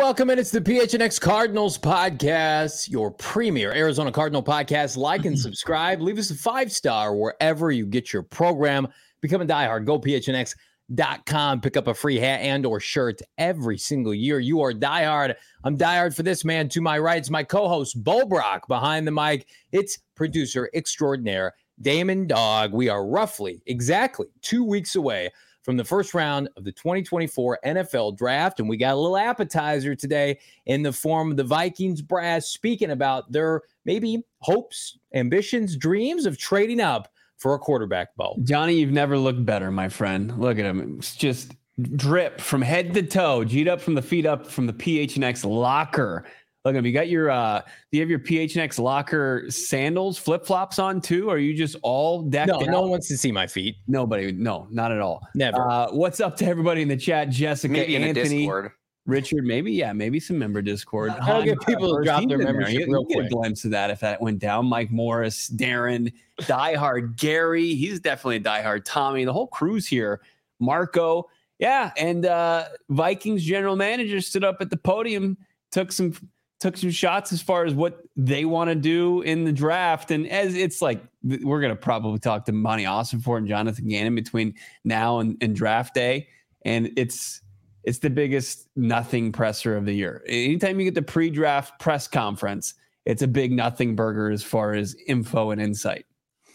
welcome in. It's the PHNX Cardinals podcast, your premier Arizona Cardinal podcast. Like and subscribe. Leave us a 5-star wherever you get your program. Become a diehard. Go PHNX.com. Pick up a free hat and or shirt every single year. You are diehard. I'm diehard for this man. To my right, it's my co-host, Bo Brock. Behind the mic, it's producer extraordinaire, Damon Dog. We are exactly 2 weeks away from the first round of the 2024 NFL Draft, and we got a little appetizer today in the form of the Vikings brass speaking about their maybe hopes, ambitions, dreams of trading up for a quarterback, Bo. Johnny, you've never looked better, my friend. Look at him. It's just drip from head to toe, G'd up from the feet up from the PHNX locker. Look at him. You got your, do you have your PHNX locker sandals, flip-flops on too? Or are you just all decked out? No one wants to see my feet. Nobody. No, not at all. Never. What's up to everybody in the chat? Jessica, maybe Anthony, in the Discord. Richard, maybe some member Discord. I'll get people to drop their membership real quick. Get a glimpse of that if that went down. Mike Morris, Darren, diehard Gary. He's definitely a diehard Tommy. The whole crew's here. Marco. Yeah, and Vikings general manager stood up at the podium, took some shots as far as what they want to do in the draft. And as it's like, we're going to probably talk to Monty Ossenfort and Jonathan Gannon between now and draft day. And it's the biggest nothing presser of the year. Anytime you get the pre-draft press conference, it's a big nothing burger as far as info and insight.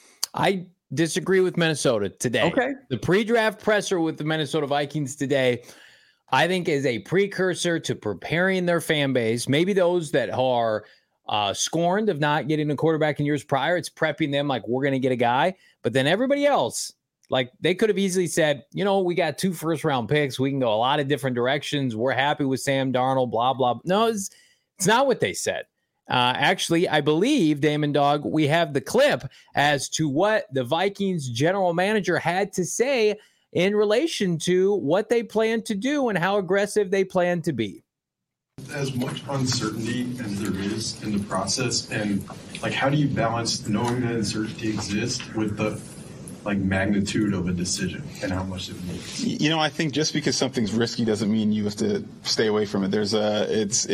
I disagree with Minnesota today. Okay. The pre-draft presser with the Minnesota Vikings today, I think, is a precursor to preparing their fan base, maybe those that are scorned of not getting a quarterback in years prior. It's prepping them like, we're going to get a guy. But then everybody else, like, they could have easily said, we got 2 first-round picks. We can go a lot of different directions. We're happy with Sam Darnold, blah, blah. No, it's not what they said. Actually, I believe, Damon Dog, we have the clip as to what the Vikings general manager had to say in relation to what they plan to do and how aggressive they plan to be. As much uncertainty as there is in the process, and how do you balance knowing that uncertainty exists with the magnitude of a decision and how much it means? I think just because something's risky doesn't mean you have to stay away from it. It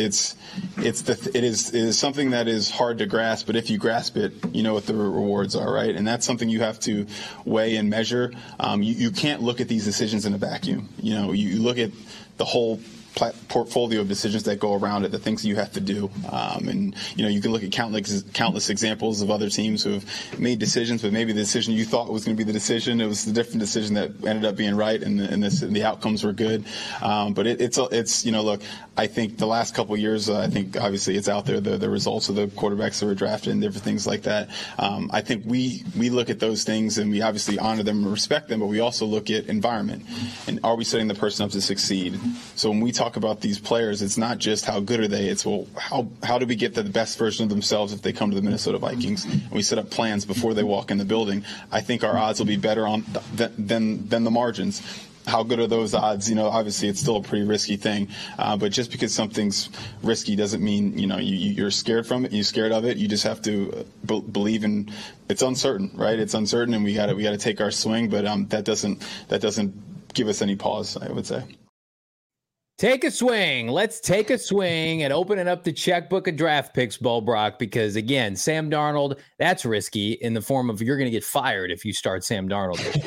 is something that is hard to grasp, but if you grasp it, you know what the rewards are, right? And that's something you have to weigh and measure. You can't look at these decisions in a vacuum. You look at the whole portfolio of decisions that go around it, the things that you have to do. And you can look at countless examples of other teams who have made decisions, but maybe the decision you thought was going to be the decision, it was the different decision that ended up being right, and the outcomes were good. But it's look, I think the last couple of years, I think obviously it's out there, the results of the quarterbacks that were drafted and different things like that. I think we look at those things and we obviously honor them and respect them, but we also look at environment and are we setting the person up to succeed? So when we talk about these players, it's not just how good are they, it's how do we get the best version of themselves if they come to the Minnesota Vikings, and we set up plans before they walk in the building. I think our odds will be better than the margins. How good are those odds? Obviously it's still a pretty risky thing, but just because something's risky doesn't mean you're scared from it. You're scared of it. You just have to believe in. It's uncertain, right? It's uncertain, and we got to take our swing. But that doesn't give us any pause, I would say. Take a swing. Let's take a swing and opening up the checkbook of draft picks, Bo Brock, because, again, Sam Darnold, that's risky in the form of you're going to get fired if you start Sam Darnold this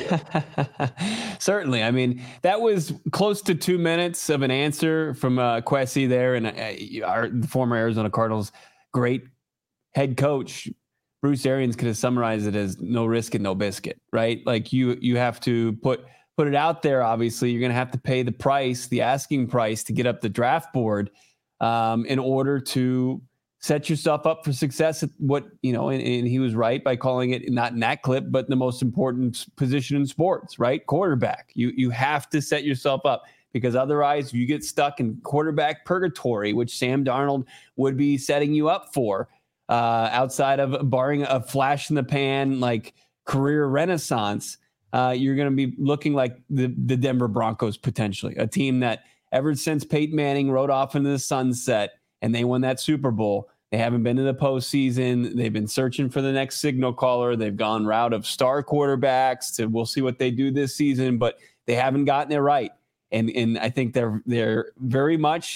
year. Certainly. I mean, that was close to 2 minutes of an answer from Kwesi there, and the former Arizona Cardinals great head coach, Bruce Arians, could have summarized it as no risk and no biscuit, right? Like you have to put it out there. Obviously, you're going to have to pay the price, the asking price, to get up the draft board in order to set yourself up for success at what, and he was right by calling it, not in that clip, but the most important position in sports, right? Quarterback. You have to set yourself up, because otherwise you get stuck in quarterback purgatory, which Sam Darnold would be setting you up for, outside of barring a flash in the pan, career renaissance. You're going to be looking like the Denver Broncos, potentially, a team that ever since Peyton Manning rode off into the sunset and they won that Super Bowl, they haven't been to the postseason. They've been searching for the next signal caller. They've gone route of star quarterbacks we'll see what they do this season, but they haven't gotten it right. And I think they're very much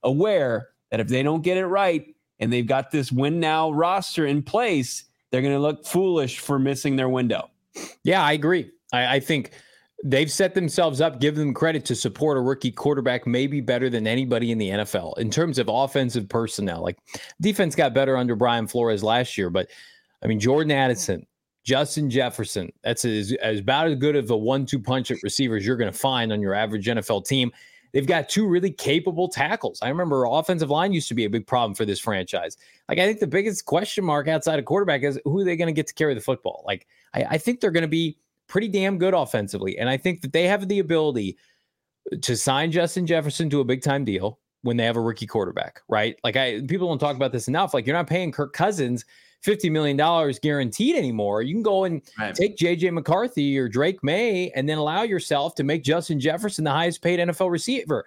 aware that if they don't get it right and they've got this win now roster in place, they're going to look foolish for missing their window. Yeah, I agree. I think they've set themselves up, give them credit to support a rookie quarterback maybe better than anybody in the NFL in terms of offensive personnel. Like defense got better under Brian Flores last year, but I mean, Jordan Addison, Justin Jefferson, that's about as good of a 1-2 punch at receivers you're going to find on your average NFL team. They've got two really capable tackles. I remember offensive line used to be a big problem for this franchise. Like, I think the biggest question mark outside of quarterback is who are they going to get to carry the football? Like, I think they're going to be pretty damn good offensively. And I think that they have the ability to sign Justin Jefferson to a big time deal when they have a rookie quarterback, right? Like, people don't talk about this enough. Like, you're not paying Kirk Cousins $50 million guaranteed anymore. You can go and take JJ McCarthy or Drake May and then allow yourself to make Justin Jefferson the highest paid NFL receiver.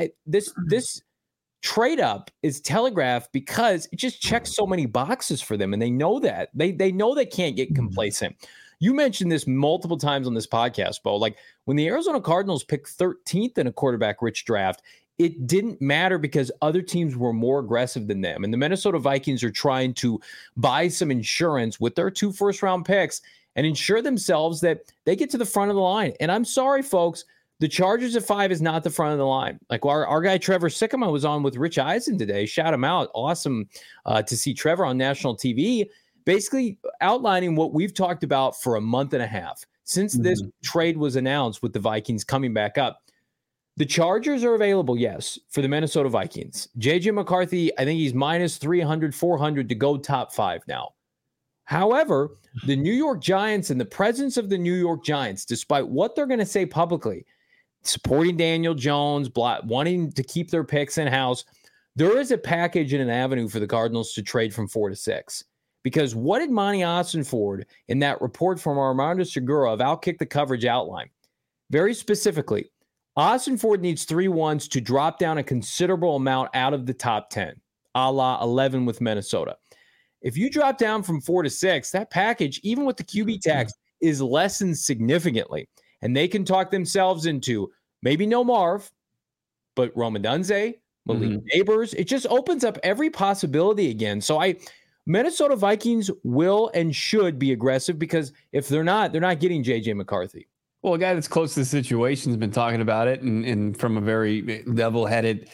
This trade up is telegraphed because it just checks so many boxes for them. And they know that. They know they can't get complacent. You mentioned this multiple times on this podcast, Bo. Like when the Arizona Cardinals picked 13th in a quarterback-rich draft, it didn't matter because other teams were more aggressive than them. And the Minnesota Vikings are trying to buy some insurance with their 2 first-round picks and ensure themselves that they get to the front of the line. And I'm sorry, folks, the Chargers at 5 is not the front of the line. Like our guy Trevor Sikkema was on with Rich Eisen today. Shout him out. Awesome to see Trevor on national TV, basically outlining what we've talked about for a month and a half since this trade was announced with the Vikings coming back up. The Chargers are available, yes, for the Minnesota Vikings. J.J. McCarthy, I think he's minus 300, 400 to go top 5 now. However, the New York Giants and the presence of the New York Giants, despite what they're going to say publicly, supporting Daniel Jones, wanting to keep their picks in-house, there is a package and an avenue for the Cardinals to trade from 4 to 6. Because what did Monty Ossenford in that report from Armando Segura of Outkick the Coverage outline? Very specifically, Ossenford needs 3 ones to drop down a considerable amount out of the top 10, a la 11 with Minnesota. If you drop down from 4 to 6, that package, even with the QB tax, is lessened significantly. And they can talk themselves into maybe no Marv, but Rome Odunze, Malik Neighbors. It just opens up every possibility again. So Minnesota Vikings will and should be aggressive because if they're not getting J.J. McCarthy. Well, a guy that's close to the situation has been talking about it and from a very level-headed,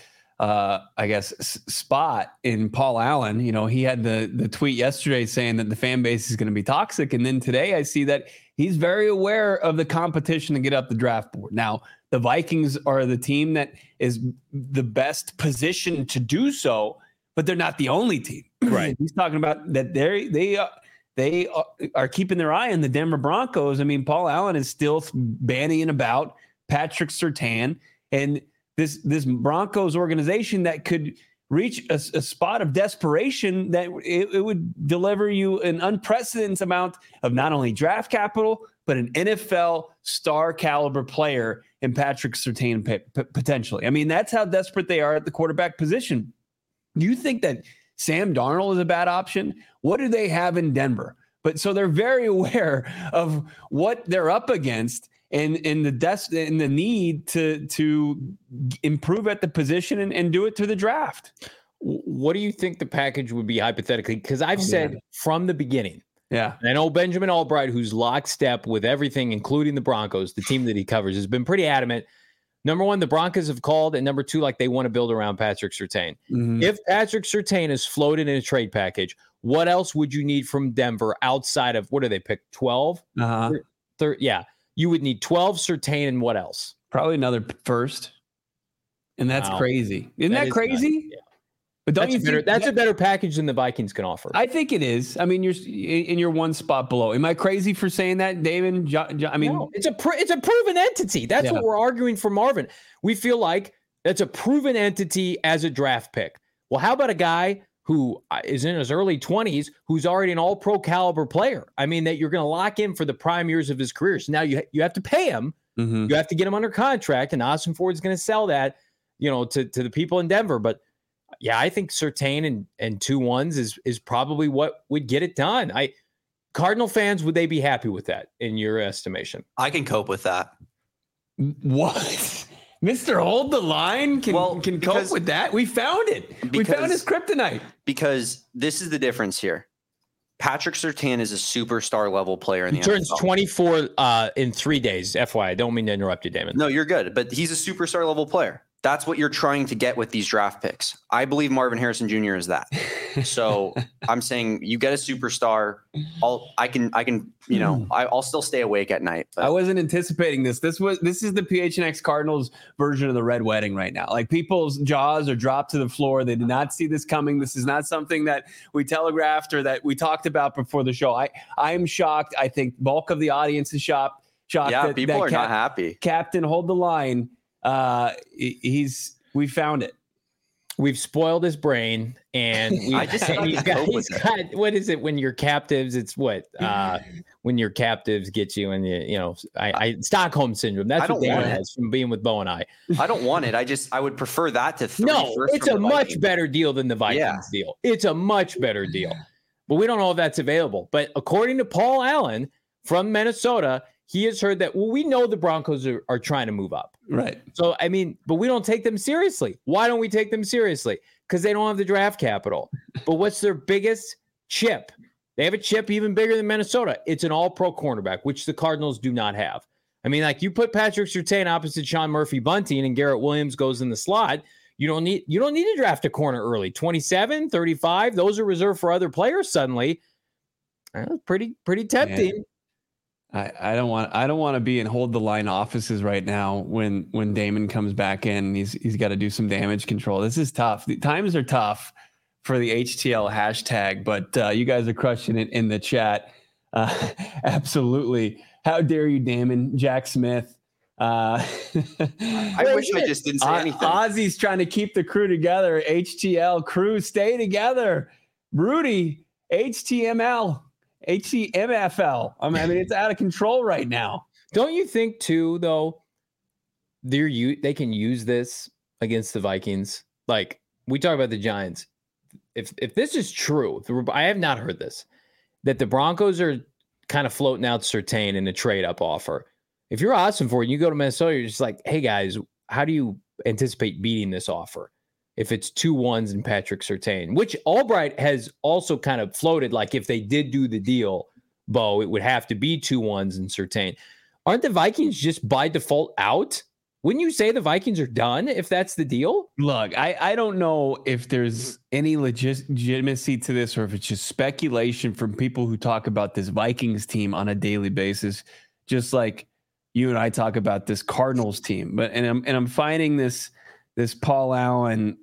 spot in Paul Allen. You know, he had the tweet yesterday saying that the fan base is going to be toxic. And then today I see that he's very aware of the competition to get up the draft board. Now, the Vikings are the team that is the best positioned to do so, but they're not the only team. Right. He's talking about that they are keeping their eye on the Denver Broncos. I mean, Paul Allen is still bandying about Patrick Surtain and this Broncos organization that could reach a spot of desperation that it would deliver you an unprecedented amount of not only draft capital, but an NFL star caliber player in Patrick Surtain potentially. I mean, that's how desperate they are at the quarterback position. Do you think that Sam Darnold is a bad option? What do they have in Denver? But so they're very aware of what they're up against and the need to improve at the position and do it through the draft. What do you think the package would be hypothetically? Because I've said from the beginning, and I know Benjamin Albright, who's lockstep with everything, including the Broncos, the team that he covers, has been pretty adamant. Number one, the Broncos have called, and number two, like they want to build around Patrick Surtain. If Patrick Surtain is floated in a trade package, what else would you need from Denver outside of, what do they pick, 12? You would need 12 Surtain and what else? Probably another first. And that's crazy. Isn't that crazy? Yeah. But don't you think that's a better package than the Vikings can offer? I think it is. I mean, you're one spot below. Am I crazy for saying that, David? I mean, no, it's a proven entity. That's what we're arguing for Marvin. We feel like that's a proven entity as a draft pick. Well, how about a guy who is in his early 20s who's already an all-pro caliber player? I mean, that you're going to lock in for the prime years of his career. So now you have to pay him. You have to get him under contract, and Ossenford's going to sell that, to the people in Denver. But yeah, I think Surtain and 2 ones is probably what would get it done. Cardinal fans, would they be happy with that in your estimation? I can cope with that. What? Mr. Hold the Line can cope with that. We found it. We found his kryptonite. Because this is the difference here. Patrick Surtain is a superstar level player in the NFL. He turns 24 in 3 days. FYI, I don't mean to interrupt you, Damon. No, you're good. But he's a superstar level player. That's what you're trying to get with these draft picks. I believe Marvin Harrison Jr. is that. So I'm saying you get a superstar. I'll still stay awake at night. But. I wasn't anticipating this. This is the PHNX Cardinals version of the Red Wedding right now. Like, people's jaws are dropped to the floor. They did not see this coming. This is not something that we telegraphed or that we talked about before the show. I am shocked. I think bulk of the audience is shocked. Yeah, people are not happy. Captain, Hold the Line. We found it. We've spoiled his brain, and he's got what is it when you're captives? It's what when your captives get you, and Stockholm syndrome. That's what Damon has from being with Bo and I. I don't want it. I would prefer that to three. No, it's a much better deal than the Vikings deal. It's a much better deal, but we don't know if that's available. But according to Paul Allen from Minnesota, he has heard that, we know the Broncos are trying to move up. Right. So, but we don't take them seriously. Why don't we take them seriously? Because they don't have the draft capital. But what's their biggest chip? They have a chip even bigger than Minnesota. It's an all-pro cornerback, which the Cardinals do not have. You put Patrick Surtain opposite Sean Murphy-Bunting and Garrett Williams goes in the slot. You don't need to draft a corner early. 27, 35, those are reserved for other players suddenly. Pretty tempting. Man. I don't want to be in Hold the Line offices right now when Damon comes back in. He's got to do some damage control. This is tough. The times are tough for the HTL hashtag, but you guys are crushing it in the chat. Absolutely. How dare you, Damon? Jack Smith. I wish I just didn't say anything. Ozzy's trying to keep the crew together. HTL crew, stay together. Rudy, HTML. HTMFL. It's out of control right now. Don't you think too, though, they can use this against the Vikings? Like, we talk about the Giants. If this is true, I have not heard this, that the Broncos are kind of floating out Surtain in a trade-up offer. If you're Ossenfort and you go to Minnesota, you're just like, hey, guys, how do you anticipate beating this offer? If it's 2 1s and Patrick Surtain, which Albright has also kind of floated, like if they did do the deal, Bo, it would have to be 2 1s and Surtain. Aren't the Vikings just by default out? Wouldn't you say the Vikings are done if that's the deal? Look, I don't know if there's any legitimacy to this or if it's just speculation from people who talk about this Vikings team on a daily basis, just like you and I talk about this Cardinals team. But I'm finding this Paul Allen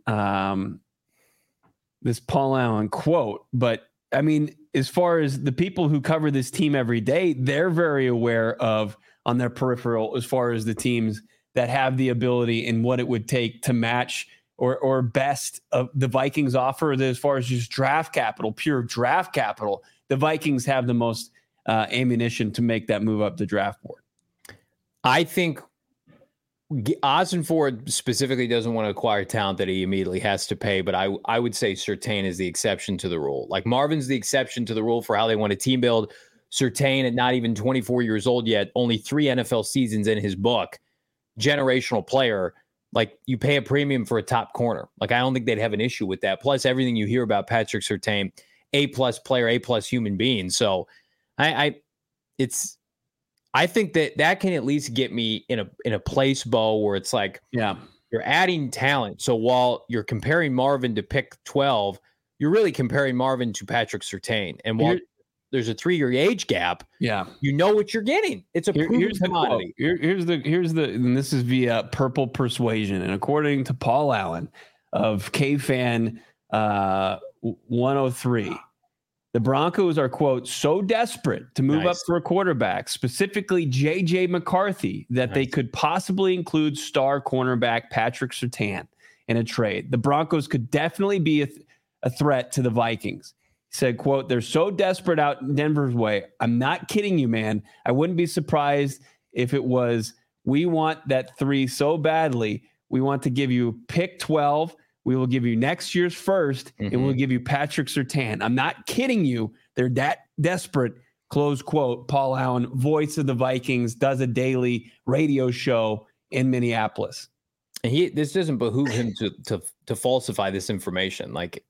quote. But as far as the people who cover this team every day, they're very aware of on their peripheral as far as the teams that have the ability and what it would take to match or best of the Vikings offer. As far as just draft capital, pure draft capital, the Vikings have the most ammunition to make that move up the draft board. I think Ossenfort specifically doesn't want to acquire talent that he immediately has to pay, but I would say Surtain is the exception to the rule. Like, Marvin's the exception to the rule for how they want to team build. Surtain, at not even 24 years old yet, only 3 NFL seasons in his book, generational player. Like, you pay a premium for a top corner. Like, I don't think they'd have an issue with that. Plus, everything you hear about Patrick Surtain, A+ player, A+ human being. So I think that can at least get me in a place, Bo, where it's like, yeah, you're adding talent. So while you're comparing Marvin to pick 12, you're really comparing Marvin to Patrick Surtain. And while there's a 3-year age gap, you know what you're getting. It's a proven commodity. Here's the, and this is via Purple Persuasion. And according to Paul Allen of KFan 103, the Broncos are, quote, so desperate to move up for a quarterback, specifically J.J. McCarthy, that they could possibly include star cornerback Patrick Surtain in a trade. The Broncos could definitely be a threat to the Vikings. He said, quote, they're so desperate out in Denver's way. I'm not kidding you, man. I wouldn't be surprised if it was, we want that 3 so badly. We want to give you pick 12. We will give you next year's first, and we'll give you Patrick Surtain. I'm not kidding you. They're that desperate, close quote. Paul Allen, voice of the Vikings, does a daily radio show in Minneapolis. And this doesn't behoove him to falsify this information. Like,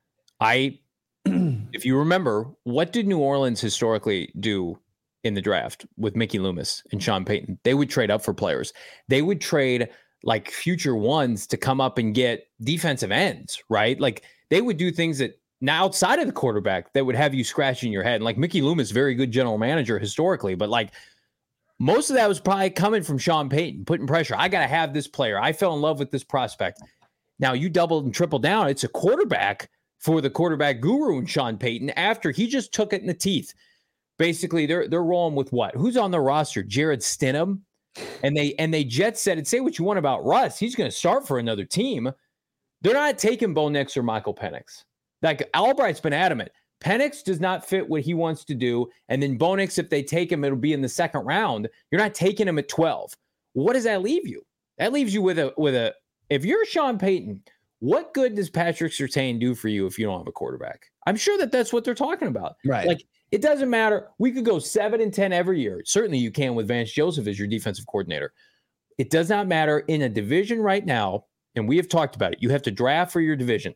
if you remember, what did New Orleans historically do in the draft with Mickey Loomis and Sean Payton? They would trade up for players. They would trade like future ones to come up and get defensive ends, right? Like, they would do things that now outside of the quarterback that would have you scratching your head. And like Mickey Loomis, very good general manager historically, but like most of that was probably coming from Sean Payton, putting pressure. I got to have this player. I fell in love with this prospect. Now you doubled and tripled down. It's a quarterback for the quarterback guru in Sean Payton after he just took it in the teeth. Basically, they're rolling with what? Who's on the roster? Jared Stidham. And they jet set it. Say what you want about Russ. He's going to start for another team. They're not taking Bo Nix or Michael Penix. Like Albright's been adamant. Penix does not fit what he wants to do. And then Bo Nix, if they take him, it'll be in the second round. You're not taking him at 12. What does that leave you? That leaves you with a if you're Sean Payton, what good does Patrick Surtain do for you if you don't have a quarterback? I'm sure that's what they're talking about. Right. Like, it doesn't matter. We could go 7-10 every year. Certainly you can with Vance Joseph as your defensive coordinator. It does not matter in a division right now, and we have talked about it. You have to draft for your division.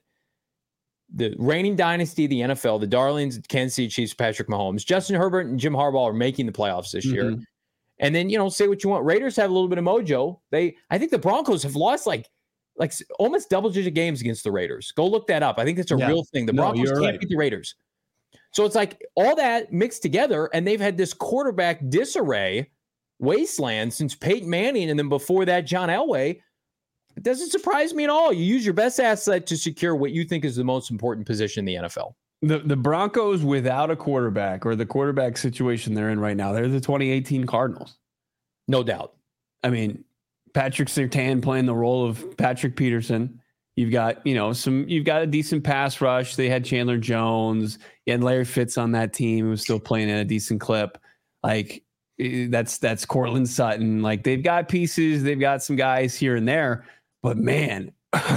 The reigning dynasty of the NFL, the darlings, Kansas City Chiefs, Patrick Mahomes, Justin Herbert, and Jim Harbaugh are making the playoffs this year. And then, say what you want. Raiders have a little bit of mojo. I think the Broncos have lost like almost double-digit games against the Raiders. Go look that up. I think it's a real thing. The Broncos can't beat the Raiders. So it's like all that mixed together, and they've had this quarterback disarray wasteland since Peyton Manning, and then before that, John Elway. It doesn't surprise me at all. You use your best asset to secure what you think is the most important position in the NFL. The Broncos without a quarterback, or the quarterback situation they're in right now, they're the 2018 Cardinals. No doubt. I mean, Patrick Surtain playing the role of Patrick Peterson. You've got, you've got a decent pass rush. They had Chandler Jones. You had Larry Fitz on that team who was still playing at a decent clip. Like, that's Cortland Sutton. Like, they've got pieces. They've got some guys here and there. But man,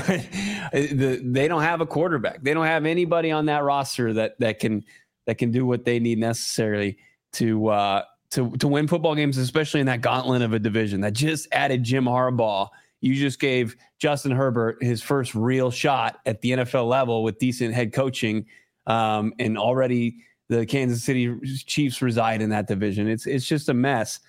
they don't have a quarterback. They don't have anybody on that roster that can do what they need necessarily to win football games, especially in that gauntlet of a division that just added Jim Harbaugh. You just gave Justin Herbert his first real shot at the NFL level with decent head coaching, and already the Kansas City Chiefs reside in that division. It's just a mess.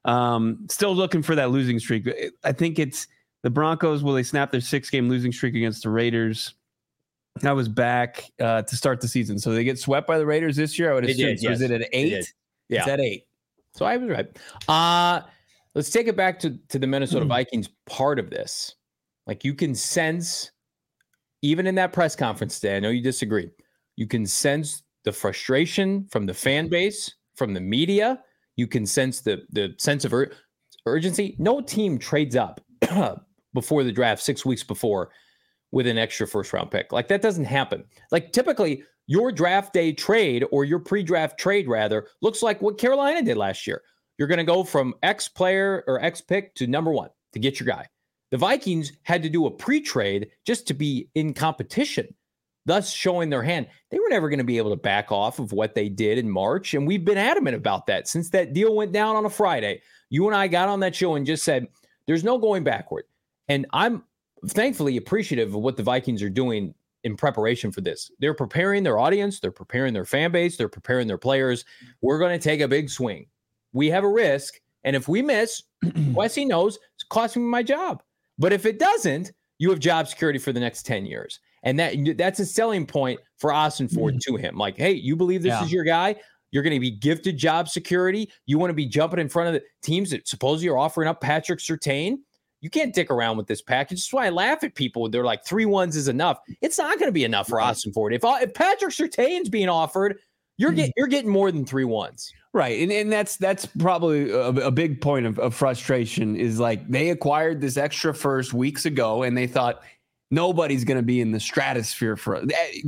Still looking for that losing streak. I think it's the Broncos. Will they snap their 6-game losing streak against the Raiders? That was back to start the season. So they get swept by the Raiders this year. I would assume. Did, yes. Was it at 8? Yeah, it's at 8. So I was right. Let's take it back to the Minnesota Vikings part of this. Like, you can sense, even in that press conference today, I know you disagree, you can sense the frustration from the fan base, from the media. You can sense the sense of urgency. No team trades up before the draft 6 weeks before with an extra first-round pick. Like, that doesn't happen. Like, typically, your draft day trade, or your pre-draft trade, rather, looks like what Carolina did last year. You're going to go from X player or X pick to number 1 to get your guy. The Vikings had to do a pre-trade just to be in competition, thus showing their hand. They were never going to be able to back off of what they did in March, and we've been adamant about that since that deal went down on a Friday. You and I got on that show and just said, there's no going backward. And I'm thankfully appreciative of what the Vikings are doing in preparation for this. They're preparing their audience. They're preparing their fan base. They're preparing their players. We're going to take a big swing. We have a risk. And if we miss, Wesley knows it's costing me my job. But if it doesn't, you have job security for the next 10 years. And that's a selling point for Austin Ford to him. Like, hey, you believe this is your guy? You're going to be gifted job security. You want to be jumping in front of the teams that supposedly are offering up Patrick Surtain. You can't dick around with this package. That's why I laugh at people. They're like, 3 1s is enough. It's not going to be enough for Austin Ford. If Patrick Surtain's being offered, you're getting more than 3 1s. Right. And that's probably a big point of frustration, is like, they acquired this extra first weeks ago and they thought nobody's going to be in the stratosphere for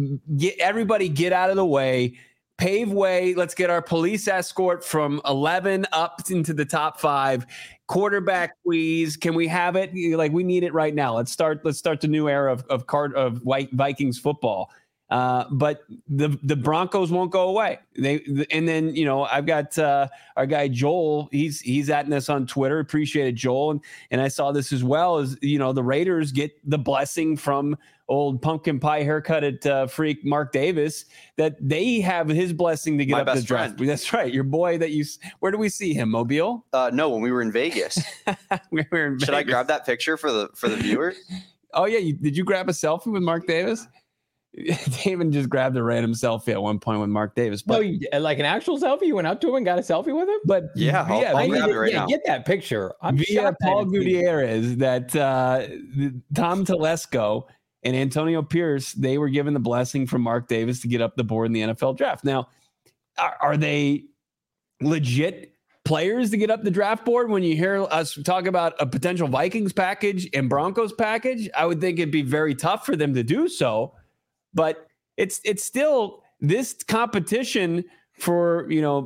everybody. Get out of the way, pave way. Let's get our police escort from 11 up into the top 5. Quarterback, please. Can we have it? Like, we need it right now. Let's start the new era of Vikings football. But the Broncos won't go away. And then I've got our guy Joel. He's at this on Twitter. Appreciate it, Joel. And I saw this as well as the Raiders get the blessing from old pumpkin pie haircut at freak Mark Davis that they have his blessing to get up the draft. That's right, your boy where do we see him? Mobile? No, when we were in Vegas. We were in Vegas. Should I grab that picture for the viewers? Oh yeah, did you grab a selfie with Mark Davis? David just grabbed a random selfie at one point with Mark Davis. But like an actual selfie? You went up to him and got a selfie with him? But I'll grab it right now. Get that picture. Via Paul Gutierrez, that Tom Telesco and Antonio Pierce, they were given the blessing from Mark Davis to get up the board in the NFL draft. Now, are they legit players to get up the draft board? When you hear us talk about a potential Vikings package and Broncos package, I would think it'd be very tough for them to do so. But it's still this competition for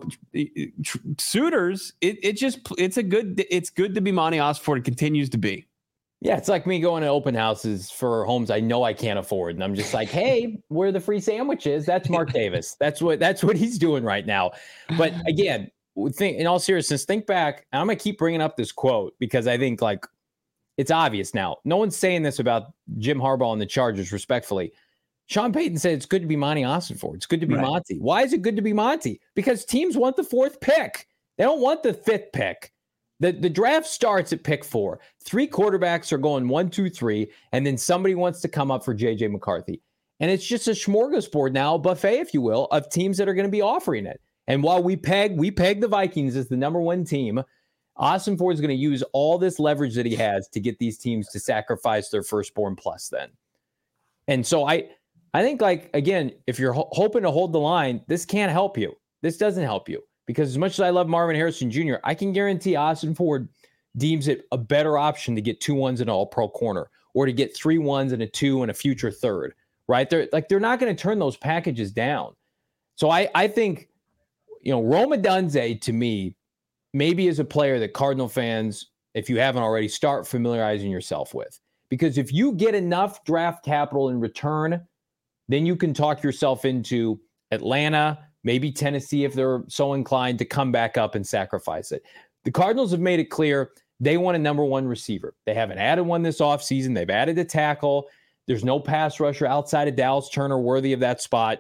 suitors. It's good to be Monty Ossenfort. It continues to be. Yeah, it's like me going to open houses for homes I know I can't afford, and I'm just like, hey, where are the free sandwiches? That's Mark Davis. That's what he's doing right now. But again, in all seriousness, think back. And I'm gonna keep bringing up this quote because I think like it's obvious now. No one's saying this about Jim Harbaugh and the Chargers, respectfully. Sean Payton said it's good to be Monty Ossenfort. It's good to be Monty. Why is it good to be Monty? Because teams want the 4th pick. They don't want the 5th pick. The draft starts at pick 4. 3 quarterbacks are going 1, 2, 3, and then somebody wants to come up for J.J. McCarthy. And it's just a smorgasbord now, a buffet, if you will, of teams that are going to be offering it. And while we peg the Vikings as the number 1 team, Ossenfort is going to use all this leverage that he has to get these teams to sacrifice their firstborn plus then. And so I think, like, again, if you're hoping to hold the line, this can't help you. This doesn't help you. Because as much as I love Marvin Harrison Jr., I can guarantee Ossenfort deems it a better option to get 2 1s and an all-pro corner, or to get 3 1s and a 2 and a future third, right? They're not going to turn those packages down. So I think, Rome Odunze, to me, maybe is a player that Cardinal fans, if you haven't already, start familiarizing yourself with. Because if you get enough draft capital in return, then you can talk yourself into Atlanta, maybe Tennessee, if they're so inclined to come back up and sacrifice it. The Cardinals have made it clear they want a number 1 receiver. They haven't added one this offseason. They've added a tackle. There's no pass rusher outside of Dallas Turner worthy of that spot.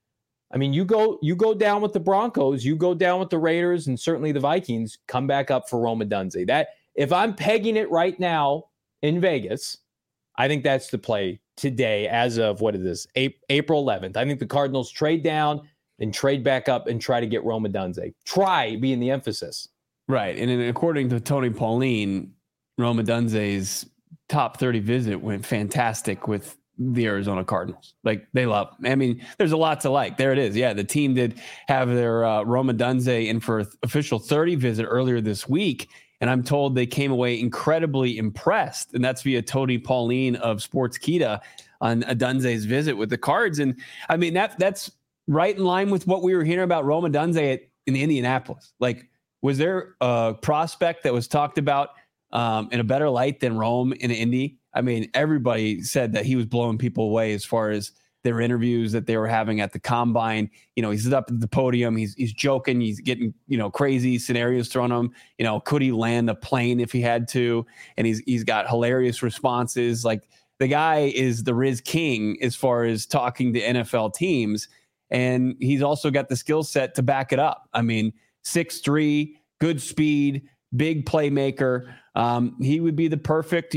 I mean, you go down with the Broncos, you go down with the Raiders, and certainly the Vikings, come back up for Rome Odunze. That, if I'm pegging it right now in Vegas, I think that's the play today as of, what is this, April 11th. I think the Cardinals trade down and trade back up and try to get Rome Odunze. Try being the emphasis. Right. And then according to Tony Pauline, Rome Odunze's top 30 visit went fantastic with the Arizona Cardinals. Like, they love him. I mean, there's a lot to like. There it is. Yeah, the team did have their Rome Odunze in for official 30 visit earlier this week. And I'm told they came away incredibly impressed. And that's via Tony Pauline of Sportskeeda on Odunze's visit with the Cards. And I mean, that's right in line with what we were hearing about Rome Odunze in Indianapolis. Like, was there a prospect that was talked about in a better light than Rome in Indy? I mean, everybody said that he was blowing people away as far as their interviews that they were having at the combine. He's up at the podium. He's joking. He's getting, crazy scenarios thrown at him. Could he land a plane if he had to? And he's got hilarious responses. Like, the guy is the Riz King as far as talking to NFL teams. And he's also got the skill set to back it up. I mean, 6'3", good speed, big playmaker. He would be the perfect,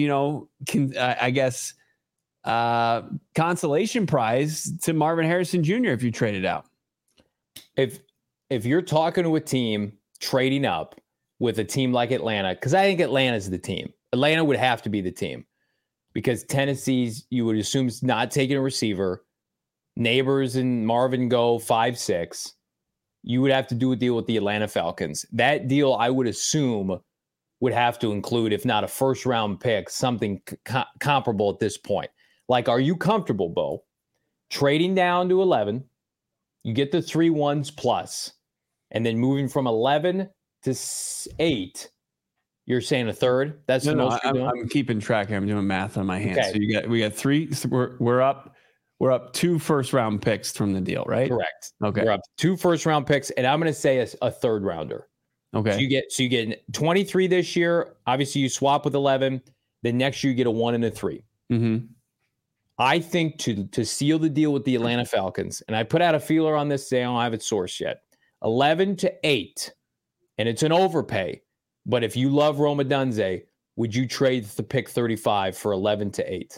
consolation prize to Marvin Harrison Jr. if you trade it out. If you're talking to a team trading up with a team like Atlanta, because I think Atlanta's the team. Atlanta would have to be the team, because Tennessee's, you would assume, is not taking a receiver. Neighbors and Marvin go 5'6". You would have to do a deal with the Atlanta Falcons. That deal, I would assume, would have to include, if not a first-round pick, something comparable at this point. Like, are you comfortable, Bo, trading down to 11? You get the 3 1s plus, and then moving from 11 to 8. You're saying a third? That's the most you're doing? I'm keeping track here. I'm doing math on my hands. Okay. So we got 3. So we're up we're up 2 first-round picks from the deal, right? Correct. Okay. We're up 2 first-round picks, and I'm going to say a third rounder. Okay. So you get 23 this year. Obviously, you swap with 11. Then next year you get a 1 and a 3. Mm-hmm. I think to seal the deal with the Atlanta Falcons, and I put out a feeler on this today. I don't have it sourced yet. 11-8, and it's an overpay. But if you love Rome Odunze, would you trade the pick 35 for 11-8?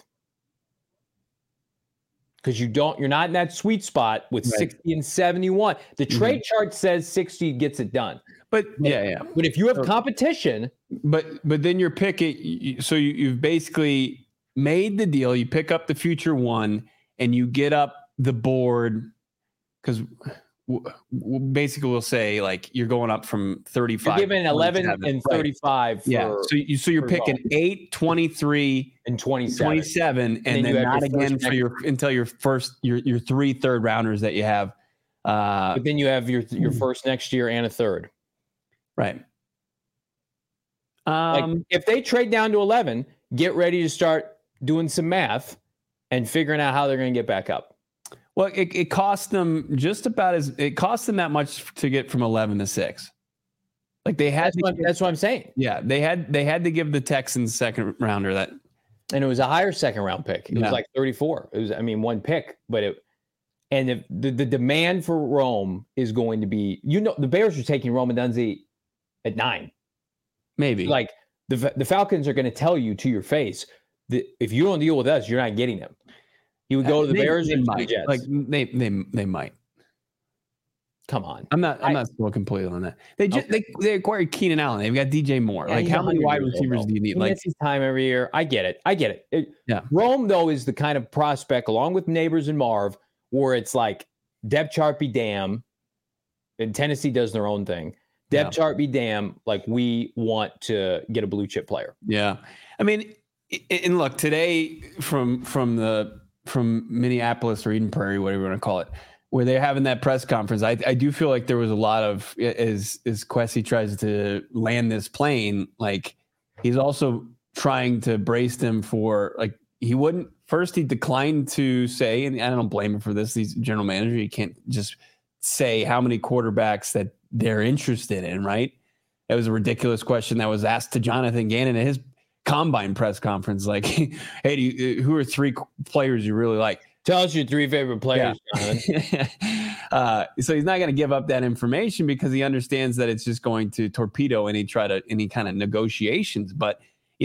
Because you're not in that sweet spot with 60 and 71. The trade chart says 60 gets it done. But But if you have competition, but then you're picking. So you've basically made the deal. You pick up the future 1, and you get up the board because basically we'll say like you're going up from 35. You're giving 11 and 35. Right. Yeah. So you're picking 8, 23, and 27, and then not again for until your 3 third rounders that you have. But then you have your first next year and a third. Right. Like if they trade down to 11, get ready to start doing some math and figuring out how they're going to get back up. Well, it cost them it cost them that much to get from 11 to 6. Like they had that's what I'm saying. Yeah, they had to give the Texans second rounder that, and it was a higher second round pick. It was like 34. It was, one pick, but the demand for Rome is going to be, the Bears are taking Rome Odunze at 9. Maybe like the Falcons are going to tell you to your face that if you don't deal with us, you're not getting him. He would go to the Bears or the Jets. Like they might. Come on, I'm not still completely on that. They acquired Keenan Allen. They've got DJ Moore. Yeah, like how many wide receivers do you need? He gets his time every year. I get it. Yeah. Rome though is the kind of prospect, along with Neighbors and Marv, where it's like depth chart be damn, and Tennessee does their own thing. Depth chart be damn, like we want to get a blue chip player. Yeah, I mean, and look today from Minneapolis or Eden Prairie, whatever you want to call it, where they're having that press conference. I do feel like there was a lot of as Kwesi tries to land this plane, like he's also trying to brace them for like he declined to say, and I don't blame him for this. He's general manager. He can't just say how many quarterbacks that they're interested in, right? That was a ridiculous question that was asked to Jonathan Gannon at his combine press conference. Like, hey, who are 3 players you really like? Tell us your 3 favorite players, Jonathan. So he's not going to give up that information because he understands that it's just going to torpedo any kind of negotiations. But,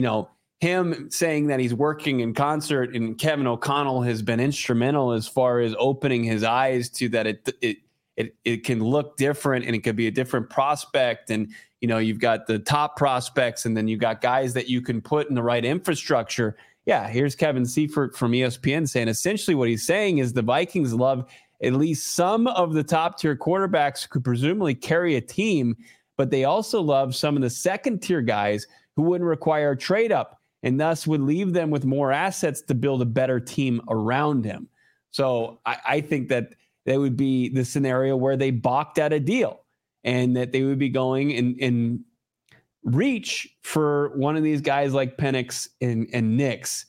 him saying that he's working in concert and Kevin O'Connell has been instrumental as far as opening his eyes to that it can look different and it could be a different prospect. And, you've got the top prospects and then you've got guys that you can put in the right infrastructure. Yeah, here's Kevin Seifert from ESPN saying essentially what he's saying is the Vikings love at least some of the top tier quarterbacks who could presumably carry a team, but they also love some of the second tier guys who wouldn't require a trade up and thus would leave them with more assets to build a better team around him. So I think that would be the scenario where they balked at a deal and that they would be going and reach for one of these guys like Penix and Nix,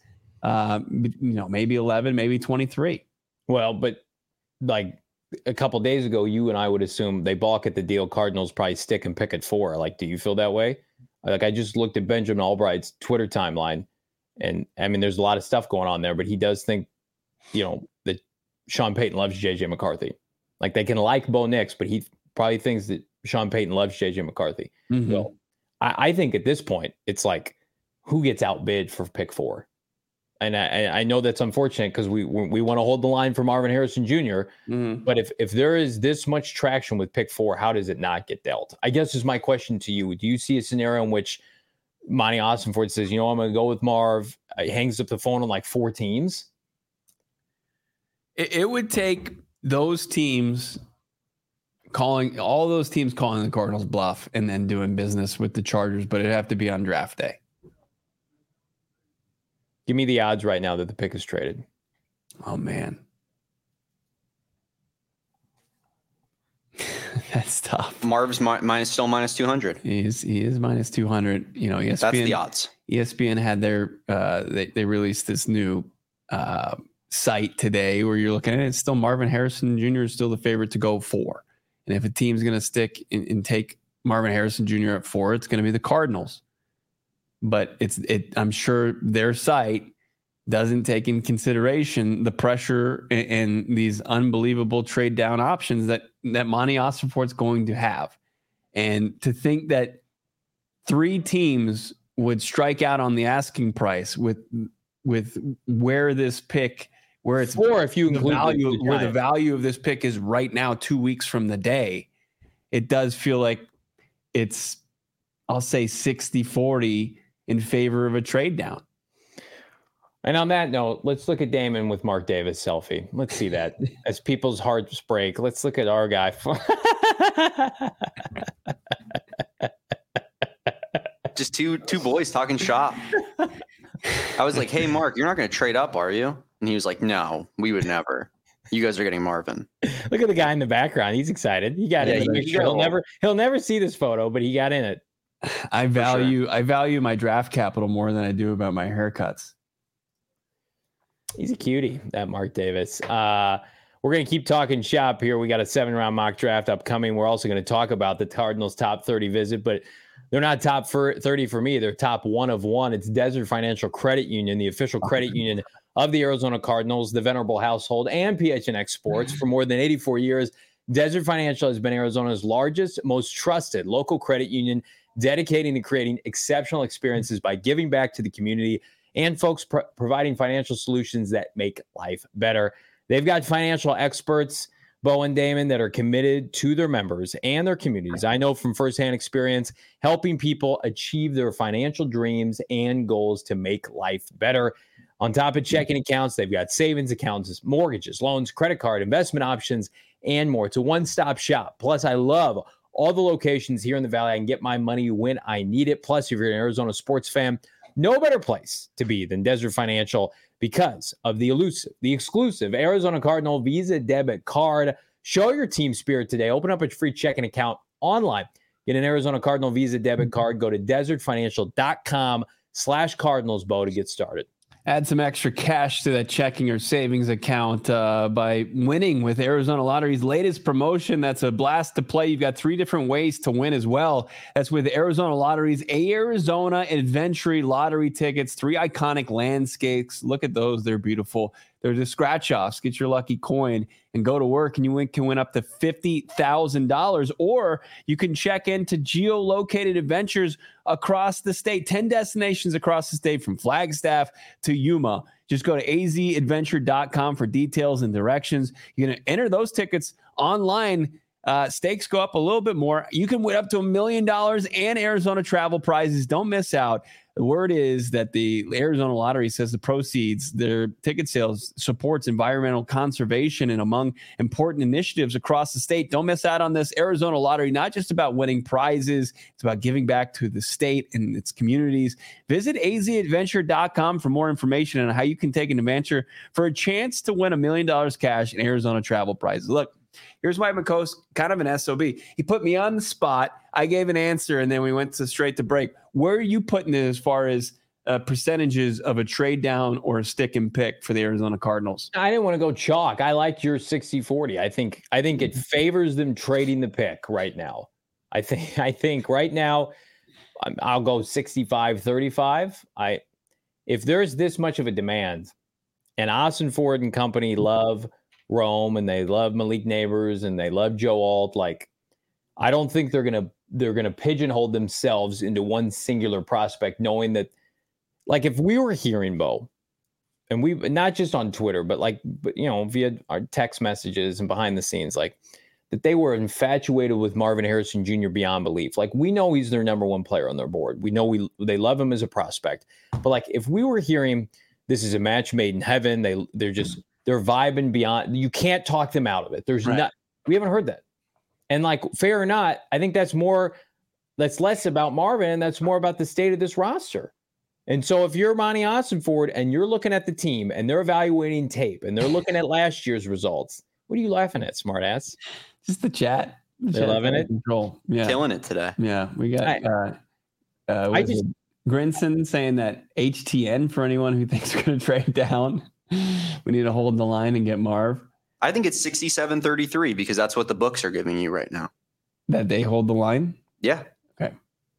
maybe 11, maybe 23. Well, but like a couple days ago, you and I would assume they balk at the deal. Cardinals probably stick and pick at 4. Like, do you feel that way? Like, I just looked at Benjamin Albright's Twitter timeline, and I mean, there's a lot of stuff going on there, but he does think, that Sean Payton loves JJ McCarthy. Like, they can like Bo Nix, but he probably thinks that Sean Payton loves JJ McCarthy. Mm-hmm. So I think at this point, it's like, who gets outbid for pick 4? And I know that's unfortunate because we want to hold the line for Marvin Harrison Jr. Mm-hmm. But if there is this much traction with pick 4, how does it not get dealt? I guess is my question to you. Do you see a scenario in which Monty Ossenford says, I'm going to go with Marv, hangs up the phone on like 4 teams? It would take those teams calling the Cardinals bluff and then doing business with the Chargers, but it'd have to be on draft day. Give me the odds right now that the pick is traded. Oh, man. That's tough. Marv's still minus 200. He is minus 200. ESPN, that's the odds. ESPN had their they released this new site today where you're looking at it, it's still Marvin Harrison Jr. is still the favorite to go 4. And if a team's going to stick and take Marvin Harrison Jr. at 4, it's going to be the Cardinals. But I'm sure their site doesn't take in consideration the pressure and these unbelievable trade down options that Monty Ossenfort's going to have. And to think that 3 teams would strike out on the asking price with where this pick, where it's 4 if you include where the value of this pick is right now, 2 weeks from the day, it does feel like it's, I'll say 60-40 in favor of a trade down. And on that note, let's look at Damon with Mark Davis selfie. Let's see that as people's hearts break. Let's look at our guy. Just two boys talking shop. I was like, "Hey, Mark, you're not going to trade up, are you?" And he was like, "No, we would never. You guys are getting Marvin." Look at the guy in the background. He's excited. He got in. He'll never see this photo, but he got in it. I value my draft capital more than I do about my haircuts. He's a cutie, that Mark Davis. We're going to keep talking shop here. We got a 7-round mock draft upcoming. We're also going to talk about the Cardinals' top 30 visit, but they're not top 30 for me. They're top 1 of 1. It's Desert Financial Credit Union, the official credit union of the Arizona Cardinals, the venerable household, and PHNX Sports. For more than 84 years, Desert Financial has been Arizona's largest, most trusted local credit union, dedicating to creating exceptional experiences by giving back to the community and folks providing financial solutions that make life better. They've got financial experts, Bo and Damon, that are committed to their members and their communities. I know from firsthand experience, helping people achieve their financial dreams and goals to make life better. On top of checking accounts, they've got savings accounts, mortgages, loans, credit card, investment options, and more. It's a one-stop shop. Plus, I love all the locations here in the Valley. I can get my money when I need it. Plus, if you're an Arizona sports fan, no better place to be than Desert Financial because of the exclusive Arizona Cardinal Visa debit card. Show your team spirit today. Open up a free checking account online. Get an Arizona Cardinal Visa debit card. Go to desertfinancial.com/CardinalsBo to get started. Add some extra cash to that checking or savings account by winning with Arizona Lottery's latest promotion. That's a blast to play. You've got 3 different ways to win as well. That's with Arizona Lottery's Arizona Adventure Lottery tickets, 3 iconic landscapes. Look at those. They're beautiful. They're the scratch-offs. Get your lucky coin and go to work, and you can win up to $50,000. Or you can check into geolocated adventures across the state, 10 destinations across the state from Flagstaff to Yuma. Just go to azadventure.com for details and directions. You're going to enter those tickets online. Stakes go up a little bit more. You can win up to $1 million and Arizona travel prizes. Don't miss out. The word is that the Arizona Lottery says the proceeds, their ticket sales, supports environmental conservation and among important initiatives across the state. Don't miss out on this Arizona Lottery, not just about winning prizes. It's about giving back to the state and its communities. Visit azadventure.com for more information on how you can take an adventure for a chance to win $1 million cash in Arizona travel prizes. Look, here's Mike McCoast, kind of an SOB. He put me on the spot. I gave an answer, and then we went straight to break. Where are you putting it as far as percentages of a trade down or a stick and pick for the Arizona Cardinals? I didn't want to go chalk. I liked your 60-40. I think it favors them trading the pick right now. I think right now I'll go 65-35. If there's this much of a demand, and Ossenfort and company love Rome and they love Malik Neighbors and they love Joe Alt, I don't think they're gonna pigeonhole themselves into one singular prospect, knowing that, if we were hearing, Bo, and we, not just on Twitter, but via our text messages and behind the scenes, that they were infatuated with Marvin Harrison Jr. beyond belief. We know he's their number 1 player on their board. We know they love him as a prospect. But if we were hearing this is a match made in heaven, they're vibing beyond. You can't talk them out of it. There's not. We haven't heard that. And fair or not, I think that's less about Marvin and that's more about the state of this roster. And so if you're Monty Ossenfort and you're looking at the team and they're evaluating tape and they're looking at last year's results, what are you laughing at, smartass? Just the chat. They're loving it. Control. Yeah. Killing it today. Yeah. We got Grinson saying that HTN for anyone who thinks we're going to trade down. We need to hold the line and get Marv. I think it's 67-33 because that's what the books are giving you right now. That they hold the line? Yeah. Okay.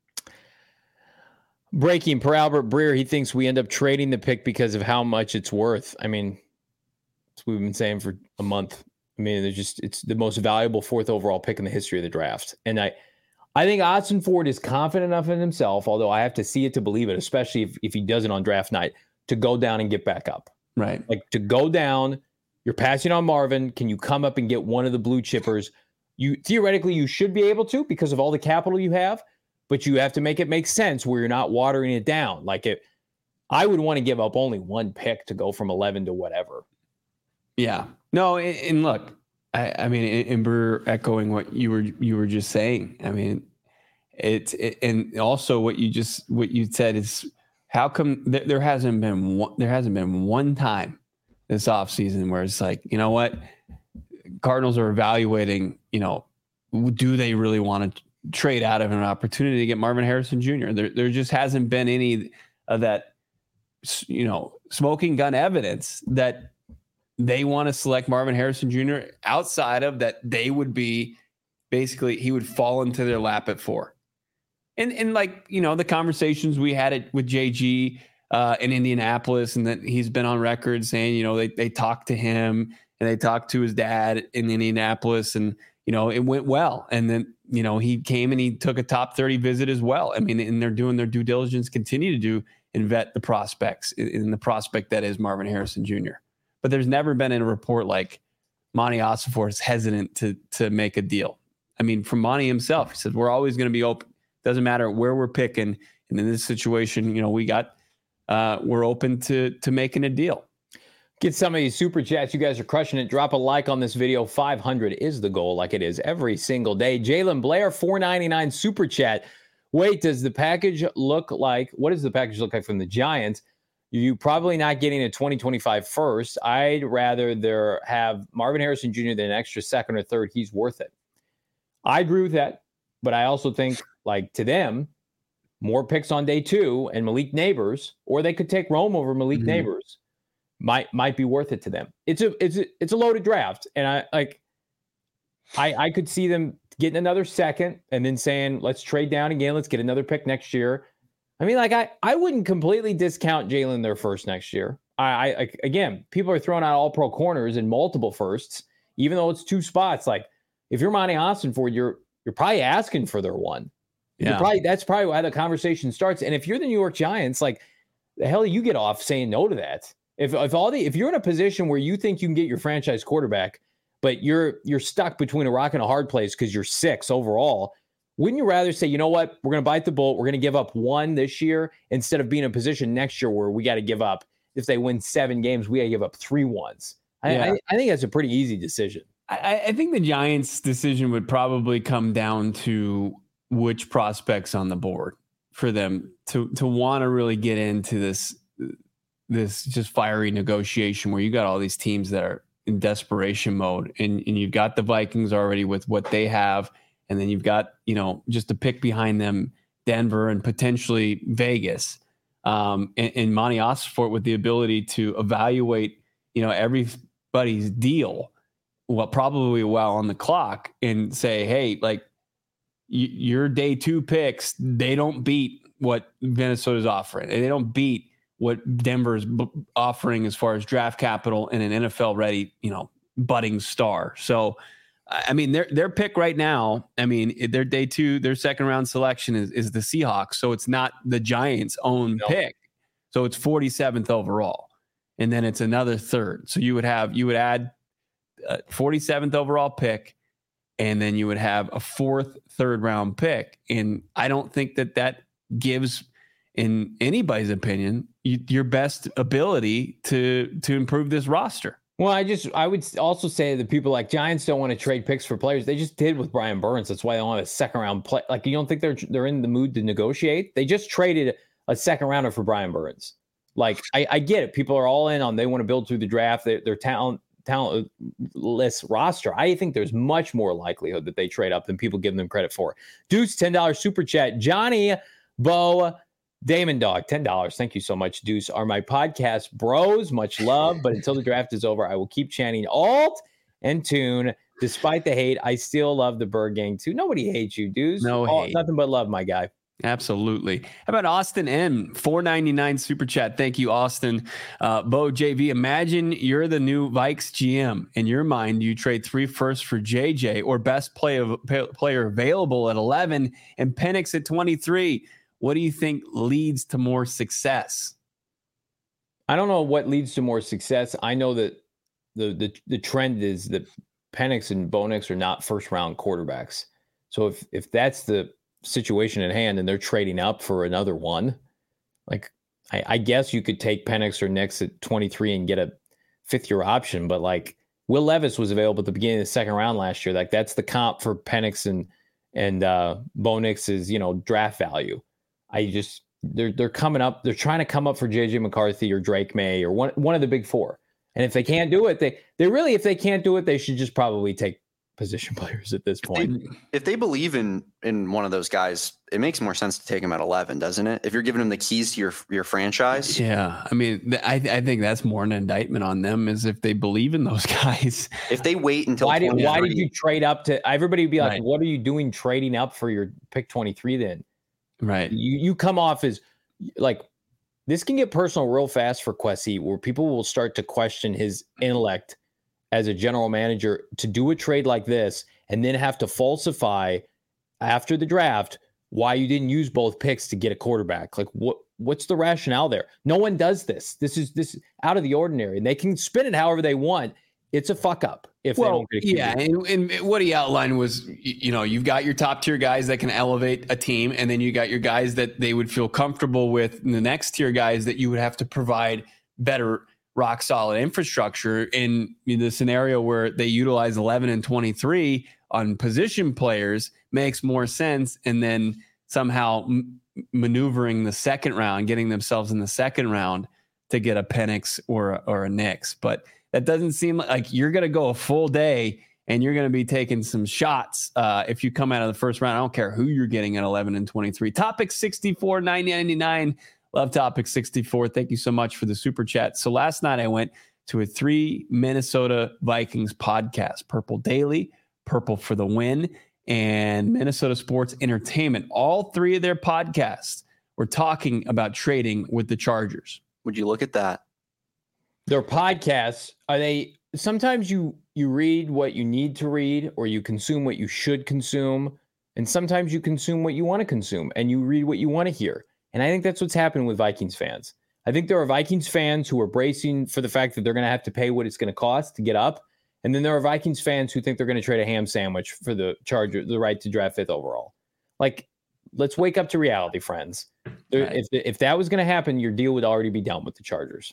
Breaking per Albert Breer, he thinks we end up trading the pick because of how much it's worth. I mean, that's what we've been saying for a month. I mean, it's the most valuable 4th overall pick in the history of the draft. And I think Ossenfort is confident enough in himself, although I have to see it to believe it, especially if he does it on draft night, to go down and get back up. Right. Like to go down, you're passing on Marvin. Can you come up and get one of the blue chippers? Theoretically, you should be able to because of all the capital you have, but you have to make it make sense where you're not watering it down. I would want to give up only one pick to go from 11 to whatever. Yeah. No, and look, I mean, and Breer echoing what you were just saying. I mean, and also what you said is how come there hasn't been one time this offseason where it's like, you know what, Cardinals are evaluating, do they really want to trade out of an opportunity to get Marvin Harrison Jr.? There just hasn't been any of that, smoking gun evidence that they want to select Marvin Harrison Jr. outside of that. They would be basically, he would fall into their lap at 4. And the conversations we had it with JG in Indianapolis, and that he's been on record saying, they talked to him and they talked to his dad in Indianapolis, and, it went well. And then, he came and he took a top 30 visit as well. I mean, and they're doing their due diligence, continue to do and vet the prospects in the prospect that is Marvin Harrison Jr. But there's never been in a report like Monty Ossenfort is hesitant to make a deal. I mean, from Monty himself, he said, we're always going to be open. Doesn't matter where we're picking. And in this situation, we're open to making a deal. Get some of these super chats. You guys are crushing it. Drop a like on this video. 500 is the goal, like it is every single day. Jalen Blair, $4.99 super chat. Wait, what does the package look like from the Giants? You probably not getting a 2025 first. I'd rather there have Marvin Harrison Jr. than an extra second or third. He's worth it. I agree with that. But I also think, to them, more picks on day 2 and Malik Neighbors, or they could take Rome over Malik Neighbors, might be worth it to them. It's a loaded draft, and I could see them getting another second and then saying, let's trade down again, let's get another pick next year. I mean, I wouldn't completely discount Jalen their first next year. Again, people are throwing out all pro corners and multiple firsts, even though it's 2 spots. If you're Monty Ossenfort, you're probably asking for their one. Yeah. That's probably how the conversation starts. And if you're the New York Giants, the hell you get off saying no to that. If you're in a position where you think you can get your franchise quarterback, but you're stuck between a rock and a hard place because you're 6 overall, wouldn't you rather say, you know what, we're going to bite the bullet, we're going to give up 1 this year instead of being in a position next year where we got to give up, if they win 7 games, we got to give up 3 ones. I think that's a pretty easy decision. I think the Giants' decision would probably come down to which prospects on the board for them to want to really get into this just fiery negotiation where you got all these teams that are in desperation mode, and you've got the Vikings already with what they have, and then you've got just a pick behind them, Denver and potentially Vegas, and Monty Ossenfort with the ability to evaluate everybody's deal. Well, probably while on the clock, and say, hey, your day 2 picks, they don't beat what Minnesota's offering. They don't beat what Denver's offering as far as draft capital and an NFL ready, budding star. So, I mean, their pick right now, I mean, their day 2, their second round selection is the Seahawks. So it's not the Giants' own pick. So it's 47th overall. And then it's another third. So you would add 47th overall pick, and then you would have a 4th third round pick. And I don't think that gives, in anybody's opinion, your best ability to improve this roster. Well, I would also say that people like Giants don't want to trade picks for players. They just did with Brian Burns. That's why they don't have a second round play. You don't think they're in the mood to negotiate? They just traded a second rounder for Brian Burns. I get it. People are all in on, they want to build through the draft. Their talentless roster. I think there's much more likelihood that they trade up than people give them credit for. Deuce, $10 super chat. Johnny Bo Damon Dog, $10. Thank you so much. Deuce are my podcast bros. Much love. But until the draft is over, I will keep chanting alt and tune. Despite the hate, I still love the Bird Gang too. Nobody hates you, Deuce. No hate. Nothing but love, my guy. Absolutely. How about Austin M? $4.99 super chat. Thank you, Austin. Bo JV, imagine you're the new Vikes GM. In your mind, you trade 3 firsts for JJ or best player available at 11 and Penix at 23. What do you think leads to more success? I don't know what leads to more success. I know that the trend is that Penix and Bo Nix are not first round quarterbacks. So if that's the situation at hand and they're trading up for another one, like I guess you could take Penix or Nix at 23 and get a 5th-year option. But like Will Levis was available at the beginning of the 2nd round last year. Like that's the comp for Penix and Bo Nix's, draft value. They're coming up. They're trying to come up for JJ McCarthy or Drake May or one of the big 4. And if they can't do it, if they can't do it, they should just probably take position players at this point. If they believe in one of those guys, it makes more sense to take him at 11, doesn't it? If you're giving them the keys to your franchise. Yeah. I mean, I think that's more an indictment on them is if they believe in those guys. If they wait until why did you trade up to everybody would be like, right. What are you doing trading up for your pick 23 then? Right. You come off as like, this can get personal real fast for Kwesi, where people will start to question his intellect as a general manager to do a trade like this and then have to falsify after the draft why you didn't use both picks to get a quarterback. Like what's the rationale there? No one does this. This is out of the ordinary, and they can spin it however they want. It's a fuck up if they don't get a QB. And what he outlined was, you've got your top tier guys that can elevate a team, and then you got your guys that they would feel comfortable with, and the next tier guys that you would have to provide better rock solid infrastructure in the scenario where they utilize 11 and 23 on position players makes more sense. And then somehow maneuvering the 2nd round, getting themselves in the 2nd round to get a Penix or a Nix. But that doesn't seem like you're going to go a full day and you're going to be taking some shots. If you come out of the 1st round, I don't care who you're getting at 11 and 23. Topic 64, $9.99. Love Topic 64. Thank you so much for the super chat. So last night I went to a 3 Minnesota Vikings podcast, Purple Daily, Purple for the Win, and Minnesota Sports Entertainment. All 3 of their podcasts were talking about trading with the Chargers. Would you look at that? Their podcasts, are they sometimes you read what you need to read or you consume what you should consume, and sometimes you consume what you want to consume and you read what you want to hear. And I think that's what's happening with Vikings fans. I think there are Vikings fans who are bracing for the fact that they're going to have to pay what it's going to cost to get up. And then there are Vikings fans who think they're going to trade a ham sandwich for the Charger, the right to draft 5th overall. Like, let's wake up to reality, friends. Right. If that was going to happen, your deal would already be done with the Chargers.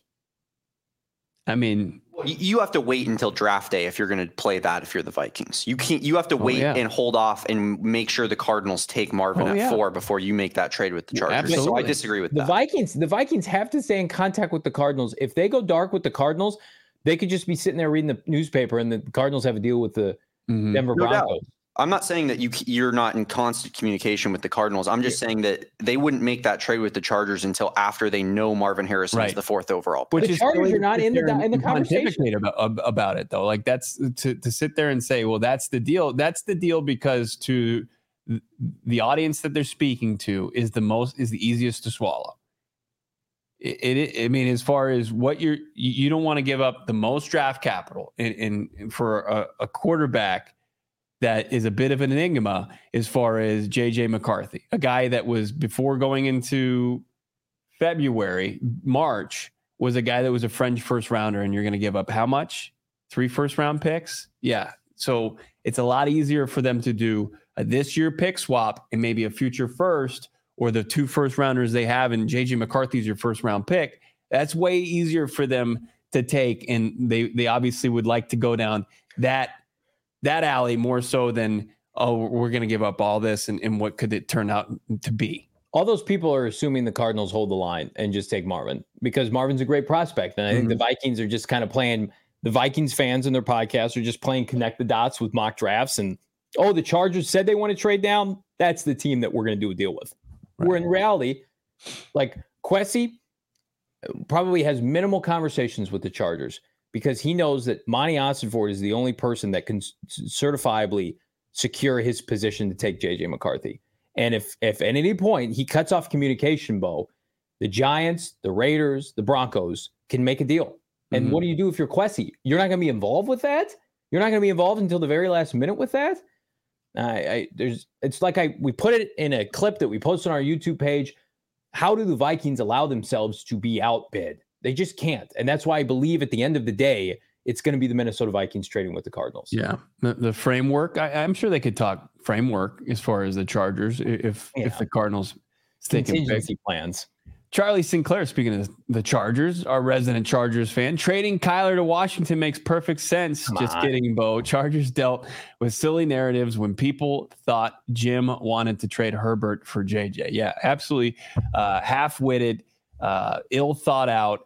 I mean, you have to wait until draft day if you're going to play that. If you're the Vikings, you have to wait and hold off and make sure the Cardinals take Marvin at 4 before you make that trade with the Chargers. Absolutely. So I disagree with that. The Vikings have to stay in contact with the Cardinals. If they go dark with the Cardinals, they could just be sitting there reading the newspaper, and the Cardinals have a deal with the Denver Broncos. I'm not saying that you're not in constant communication with the Cardinals. I'm just saying that they wouldn't make that trade with the Chargers until after they know Marvin Harrison is the 4th overall pick. But the Chargers are not in the conversation about it, though. Like, that's to sit there and say, well, that's the deal. That's the deal because to the audience that they're speaking to is the easiest to swallow. I mean, as far as what you don't want to give up the most draft capital in for a quarterback that is a bit of an enigma as far as JJ McCarthy, a guy that was before going into March was a guy that was a French 1st rounder, and you're going to give up how much? 3 1st-round picks? Yeah. So it's a lot easier for them to do a this year pick swap and maybe a future 1st, or the 2 1st-rounders they have, and JJ McCarthy's your 1st-round pick. That's way easier for them to take, and they obviously would like to go down that alley more so than, we're going to give up all this, and what could it turn out to be? All those people are assuming the Cardinals hold the line and just take Marvin because Marvin's a great prospect. And I think the Vikings are just kind of playing, the Vikings fans in their podcasts are just playing connect the dots with mock drafts. And, the Chargers said they want to trade down. That's the team that we're going to do a deal with. Right. Where in reality, Like Kwesi probably has minimal conversations with the Chargers because he knows that Monty Ossenford is the only person that can certifiably secure his position to take JJ McCarthy. And if at any point he cuts off communication, Bo, the Giants, the Raiders, the Broncos can make a deal. And what do you do if you're Kwesi? You're not going to be involved with that? You're not going to be involved until the very last minute with that? It's like we put it in a clip that we posted on our YouTube page. How do the Vikings allow themselves to be outbid? They just can't. And that's why I believe at the end of the day, it's going to be the Minnesota Vikings trading with the Cardinals. Yeah. The framework, I'm sure they could talk framework as far as the Chargers if the Cardinals contingency plans. Charlie Sinclair, speaking of the Chargers, our resident Chargers fan, trading Kyler to Washington makes perfect sense. Just kidding, Bo. Chargers dealt with silly narratives when people thought Jim wanted to trade Herbert for JJ. Yeah, absolutely half-witted, ill thought out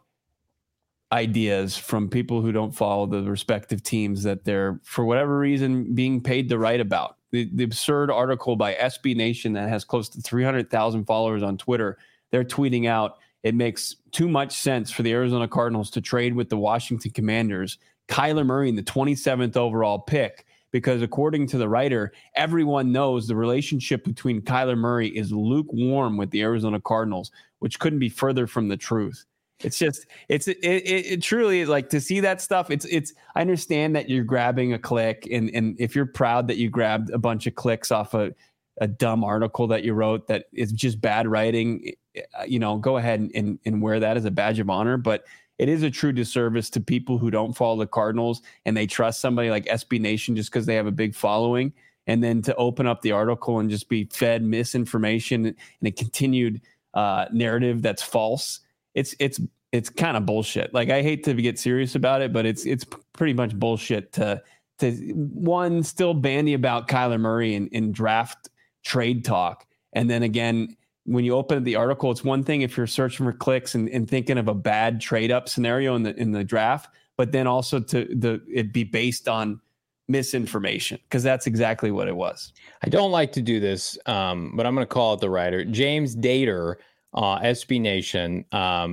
ideas from people who don't follow the respective teams that they're, for whatever reason, being paid to write about. The absurd article by SB Nation that has close to 300,000 followers on Twitter, they're tweeting out, it makes too much sense for the Arizona Cardinals to trade with the Washington Commanders, Kyler Murray in the 27th overall pick, because according to the writer, everyone knows the relationship between Kyler Murray is lukewarm with the Arizona Cardinals, which couldn't be further from the truth. It's just, it truly is like to see that stuff. I understand that you're grabbing a click and if you're proud that you grabbed a bunch of clicks off a dumb article that you wrote that is just bad writing, go ahead and wear that as a badge of honor. But it is a true disservice to people who don't follow the Cardinals and they trust somebody like SB Nation just because they have a big following. And then to open up the article and just be fed misinformation and a continued narrative that's false. It's kind of bullshit. Like, I hate to get serious about it, but it's pretty much bullshit to one, still bandy about Kyler Murray and draft trade talk. And then again, when you open the article, it's one thing if you're searching for clicks and thinking of a bad trade up scenario in the draft, but then also it be based on misinformation, because that's exactly what it was. I don't like to do this, but I'm going to call it the writer. James Dater, SB Nation.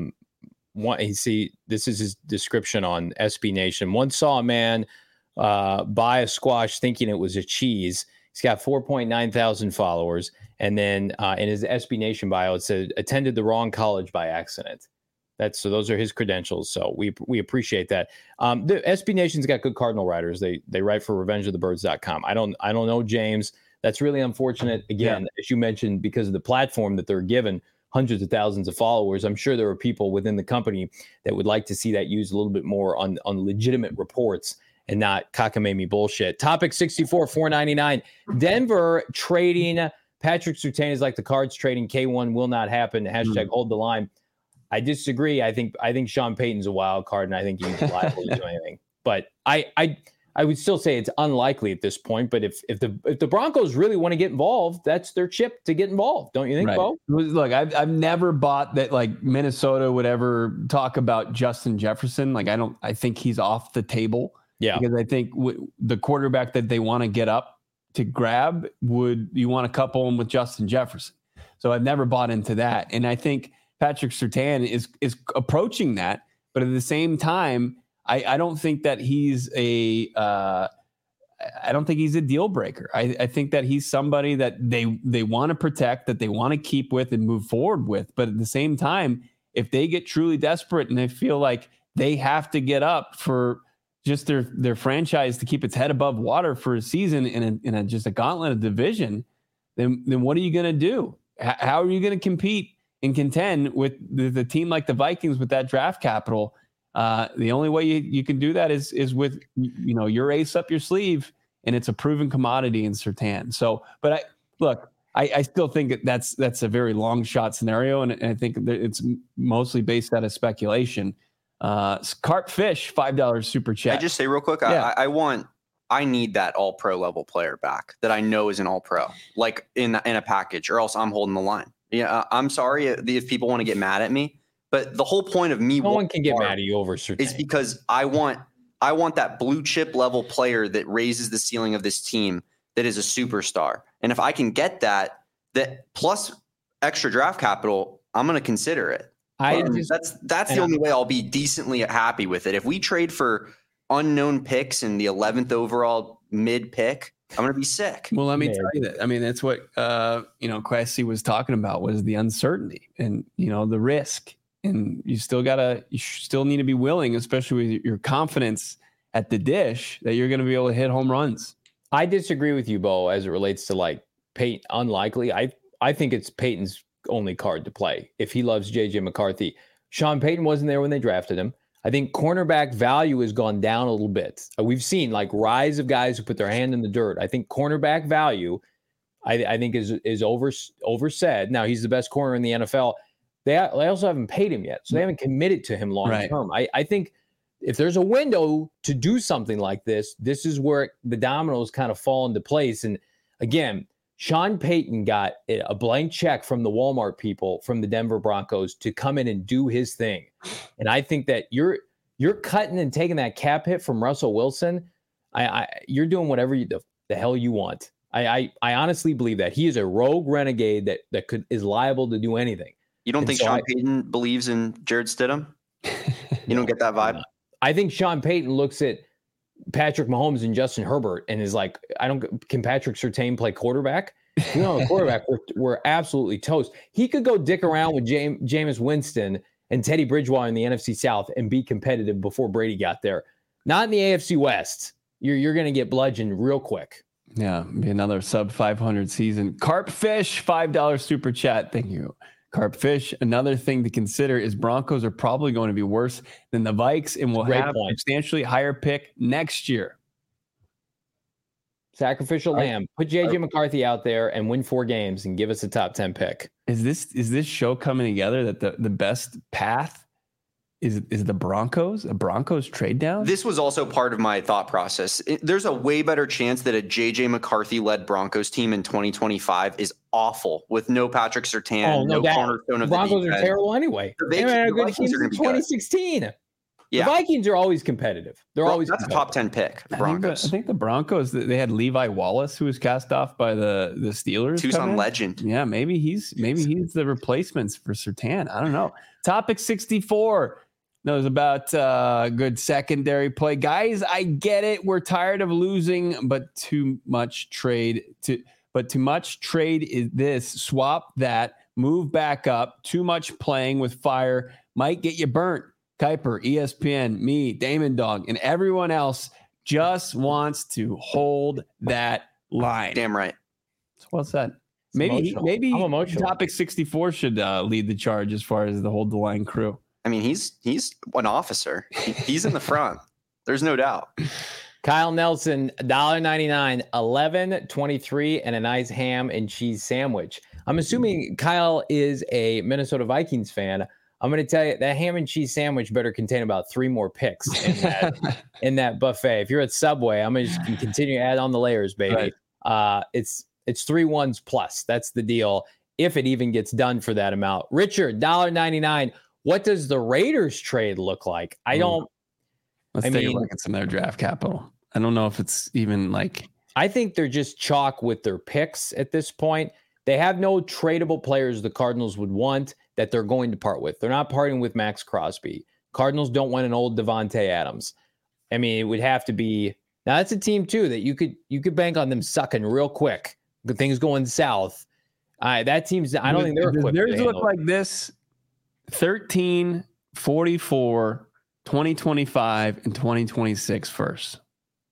This is his description on SB Nation. Once saw a man buy a squash thinking it was a cheese. He's got 4.9 thousand followers. And then in his SB Nation bio, it said attended the wrong college by accident. So those are his credentials. So we appreciate that. The SB Nation's got good Cardinal writers. They write for revengeofthebirds.com. I don't know, James. That's really unfortunate. Again, as you mentioned, because of the platform that they're given, hundreds of thousands of followers. I'm sure there are people within the company that would like to see that used a little bit more on legitimate reports and not cockamamie bullshit. Topic 64, $4.99. Denver trading Patrick Surtain is like the Cards trading K1 will not happen. Hashtag hold the line. I disagree. I think Sean Payton's a wild card, and I think he's liable to do anything. But I would still say it's unlikely at this point. But if the Broncos really want to get involved, that's their chip to get involved. Don't you think, Bo? Look, I've never bought that like Minnesota would ever talk about Justin Jefferson. Like I think he's off the table. Yeah, because I think the quarterback that they want to get up to grab you want to couple him with Justin Jefferson. So I've never bought into that, and I think Patrick Surtain is approaching that, but at the same time, I don't think that he's I don't think he's a deal breaker. I think that he's somebody that they want to protect, that they want to keep with and move forward with. But at the same time, if they get truly desperate and they feel like they have to get up for just their franchise to keep its head above water for a season in just a gauntlet of division, then what are you going to do? How are you going to compete and contend with the team like the Vikings with that draft capital? The only way you can do that is with your ace up your sleeve, and it's a proven commodity in Surtain. So, but I still think that's a very long shot scenario, and I think that it's mostly based out of speculation. Carp Fish, $5 super chat. I just say real quick, yeah. I need that all pro level player back that I know is an all pro, like in a package, or else I'm holding the line. Yeah, I'm sorry if people want to get mad at me, but the whole point of me, no one can get mad at you over Surtain, is because I want that blue chip level player that raises the ceiling of this team, that is a superstar. And if I can get that plus extra draft capital, I'm going to consider it. That's the only way I'll be decently happy with it. If we trade for unknown picks in the 11th overall mid pick, I'm going to be sick. Well, let me tell you that. I mean, that's what Kwesi was talking about, was the uncertainty and the risk. And you still need to be willing, especially with your confidence at the dish, that you're going to be able to hit home runs. I disagree with you, Bo, as it relates to like Peyton. Unlikely. I think it's Peyton's only card to play if he loves JJ McCarthy. Sean Payton wasn't there when they drafted him. I think cornerback value has gone down a little bit. We've seen like rise of guys who put their hand in the dirt. I think cornerback value, I think is oversaid. Now he's the best corner in the NFL. They also haven't paid him yet, so they haven't committed to him long term. Right. I think if there's a window to do something like this, this is where the dominoes kind of fall into place. And again, Sean Payton got a blank check from the Walmart people from the Denver Broncos to come in and do his thing. And I think that you're cutting and taking that cap hit from Russell Wilson. You're doing whatever the hell you want. I honestly believe that he is a rogue renegade that is liable to do anything. You don't think Sean Payton believes in Jared Stidham? You don't get that vibe? I think Sean Payton looks at Patrick Mahomes and Justin Herbert and is like, can Patrick Surtain play quarterback? Quarterback, we're absolutely toast. He could go dick around with Jameis Winston and Teddy Bridgewater in the NFC South and be competitive before Brady got there. Not in the AFC West. You're going to get bludgeoned real quick. Yeah, be another sub 500 season. Carpfish, $5 super chat. Thank you. Carpfish, another thing to consider is Broncos are probably going to be worse than the Vikes and will have a substantially higher pick next year. Sacrificial lamb. Put JJ McCarthy out there and win 4 games and give us a top 10 pick. Is this show coming together that the best path is the Broncos? A Broncos trade down? This was also part of my thought process. There's a way better chance that a JJ McCarthy-led Broncos team in 2025 is awful with no Patrick Surtain, no cornerstone of the Broncos are terrible anyway. They had a good team in 2016. Yeah. The Vikings are always competitive. That's a top 10 pick. The Broncos. I think the Broncos, they had Levi Wallace, who was cast off by the Steelers. Tucson legend. Yeah, maybe he's the replacements for Surtain. I don't know. Topic 64 knows about good secondary play. Guys, I get it. We're tired of losing, but too much trade is this. Swap that. Move back up. Too much playing with fire might get you burnt. Kuiper, ESPN, me, Damon Dog, and everyone else just wants to hold that line. Damn right. Well said. Maybe topic 64 should lead the charge as far as the hold the line crew. I mean, he's an officer. He's in the front. There's no doubt. Kyle Nelson, $1.99, 11.23, and a nice ham and cheese sandwich. I'm assuming Kyle is a Minnesota Vikings fan. I'm going to tell you that ham and cheese sandwich better contain about 3 more picks in that buffet. If you're at Subway, I'm going to just continue to add on the layers, baby. Right. It's 3 ones plus. That's the deal. If it even gets done for that amount. Richard, $1.99. What does the Raiders trade look like? Let's take a look at some of their draft capital. I don't know if it's even like. I think they're just chalk with their picks at this point. They have no tradable players the Cardinals would want that they're going to part with. They're not parting with Max Crosby. Cardinals don't want an old Devontae Adams. I mean, it would have to be. Now that's a team too that you could bank on them sucking real quick. The things going south. That team's. I don't think they're equipped. Theirs look like this: 13, 44, 2025, and 2026 first.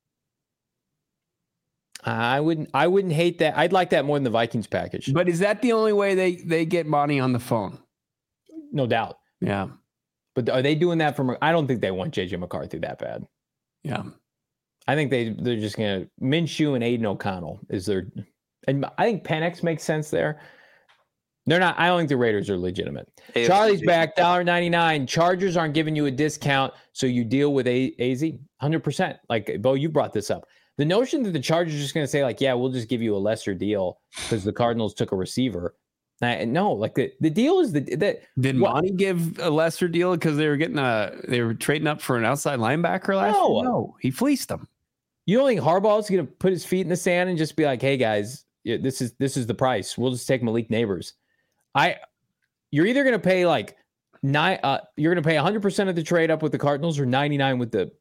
I wouldn't hate that. I'd like that more than the Vikings package. But is that the only way they get money on the phone? No doubt. Yeah. But are they doing that from? I don't think they want JJ McCarthy that bad. Yeah. I think they're just gonna Minshew and Aiden O'Connell is their, and I think Penix makes sense there. They're not. I don't think the Raiders are legitimate. Charlie's back, $1.99. Chargers aren't giving you a discount, so you deal with AZ 100%. Like Bo, you brought this up. The notion that the Chargers are just going to say like, yeah, we'll just give you a lesser deal because the Cardinals took a receiver. No, like the deal is that. Did Monty give a lesser deal because they were trading up for an outside linebacker last year? No, he fleeced them. You don't think Harbaugh's going to put his feet in the sand and just be like, hey guys, this is the price. We'll just take Malik Neighbors. you're either going to pay like you're going to pay 100% of the trade up with the Cardinals or 99 with the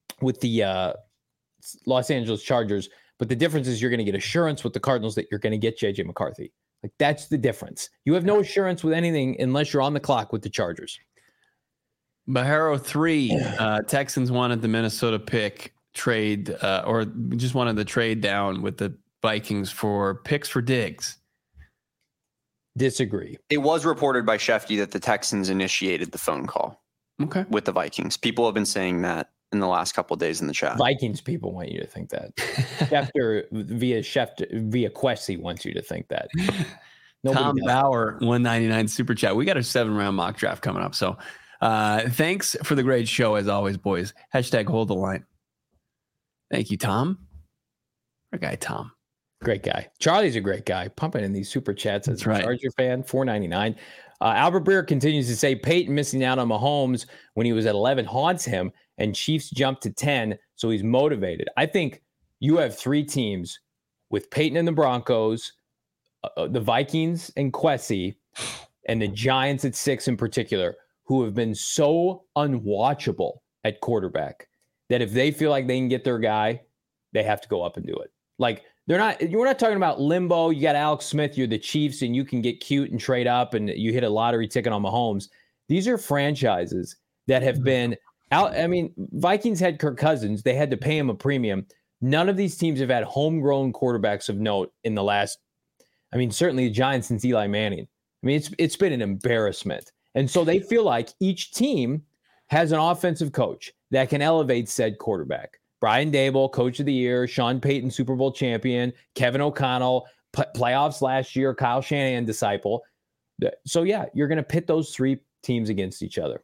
Los Angeles Chargers. But the difference is you're going to get assurance with the Cardinals that you're going to get JJ McCarthy. Like, that's the difference. You have no assurance with anything unless you're on the clock with the Chargers. Bajero 3, Texans wanted the Minnesota pick trade, or just wanted the trade down with the Vikings for picks for Diggs. Disagree. It was reported by Shefty that the Texans initiated the phone call with the Vikings. People have been saying that in the last couple of days in the chat. Vikings people want you to think that. Schefter via Quessy wants you to think that. Tom Bauer, 199 super chat. We got a 7-round mock draft coming up. So thanks for the great show as always, boys. # hold the line. Thank you, Tom. Our guy, Tom. Great guy. Charlie's a great guy. Pumping in these super chats as That's a Charger fan. $4.99. Albert Breer continues to say Peyton missing out on Mahomes when he was at 11 haunts him, and Chiefs jumped to 10, so he's motivated. I think you have 3 teams with Peyton and the Broncos, the Vikings and Quessy, and the Giants at 6 in particular, who have been so unwatchable at quarterback that if they feel like they can get their guy, they have to go up and do it. Like, we're not talking about limbo. You got Alex Smith, you're the Chiefs, and you can get cute and trade up and you hit a lottery ticket on Mahomes. These are franchises that have been out. I mean, Vikings had Kirk Cousins. They had to pay him a premium. None of these teams have had homegrown quarterbacks of note in the last, certainly the Giants since Eli Manning. It's been an embarrassment. And so they feel like each team has an offensive coach that can elevate said quarterback. Brian Daboll, Coach of the Year, Sean Payton, Super Bowl champion, Kevin O'Connell, playoffs last year, Kyle Shanahan disciple. So, yeah, you're going to pit those 3 teams against each other.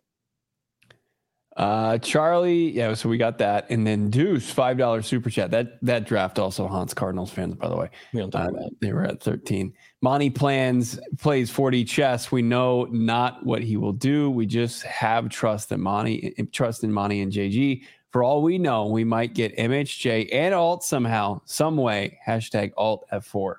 Charlie, yeah, so we got that. And then Deuce, $5 super chat. That draft also haunts Cardinals fans, by the way. We don't talk about it. They were at 13. Monty plays 4D chess. We know not what he will do. We just have trust in Monty and JG. For all we know, we might get MHJ and Alt somehow, some way. # Alt F4.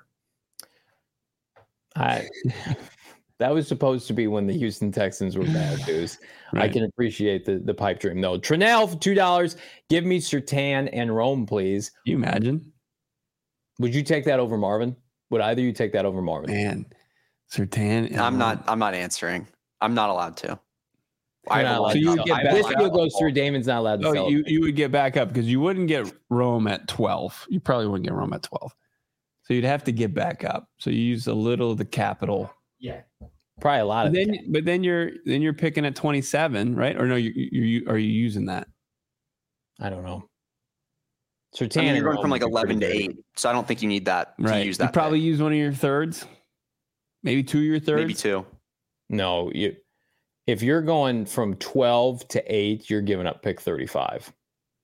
That was supposed to be when the Houston Texans were bad news. Right. I can appreciate the pipe dream, though. Trinell for $2. Give me Surtain and Rome, please. Can you imagine? Would you take that over Marvin? Would either of you take that over Marvin? Man, Surtain. I'm not answering. I'm not allowed to. So you would get back. This deal goes through. Damon's not allowed to. You would get back up because you wouldn't get Rome at 12. You probably wouldn't get Rome at 12. So you'd have to get back up. So you use a little of the capital. Yeah, probably a lot of. But then you're picking at 27, right? Or no, you are you using that? I don't know. Surtain, you're going from like 11 to 8, so I don't think you need that to use that. You probably use one of your thirds, maybe 2 of your thirds, maybe 2. No, if you're going from 12 to 8, you're giving up pick 35.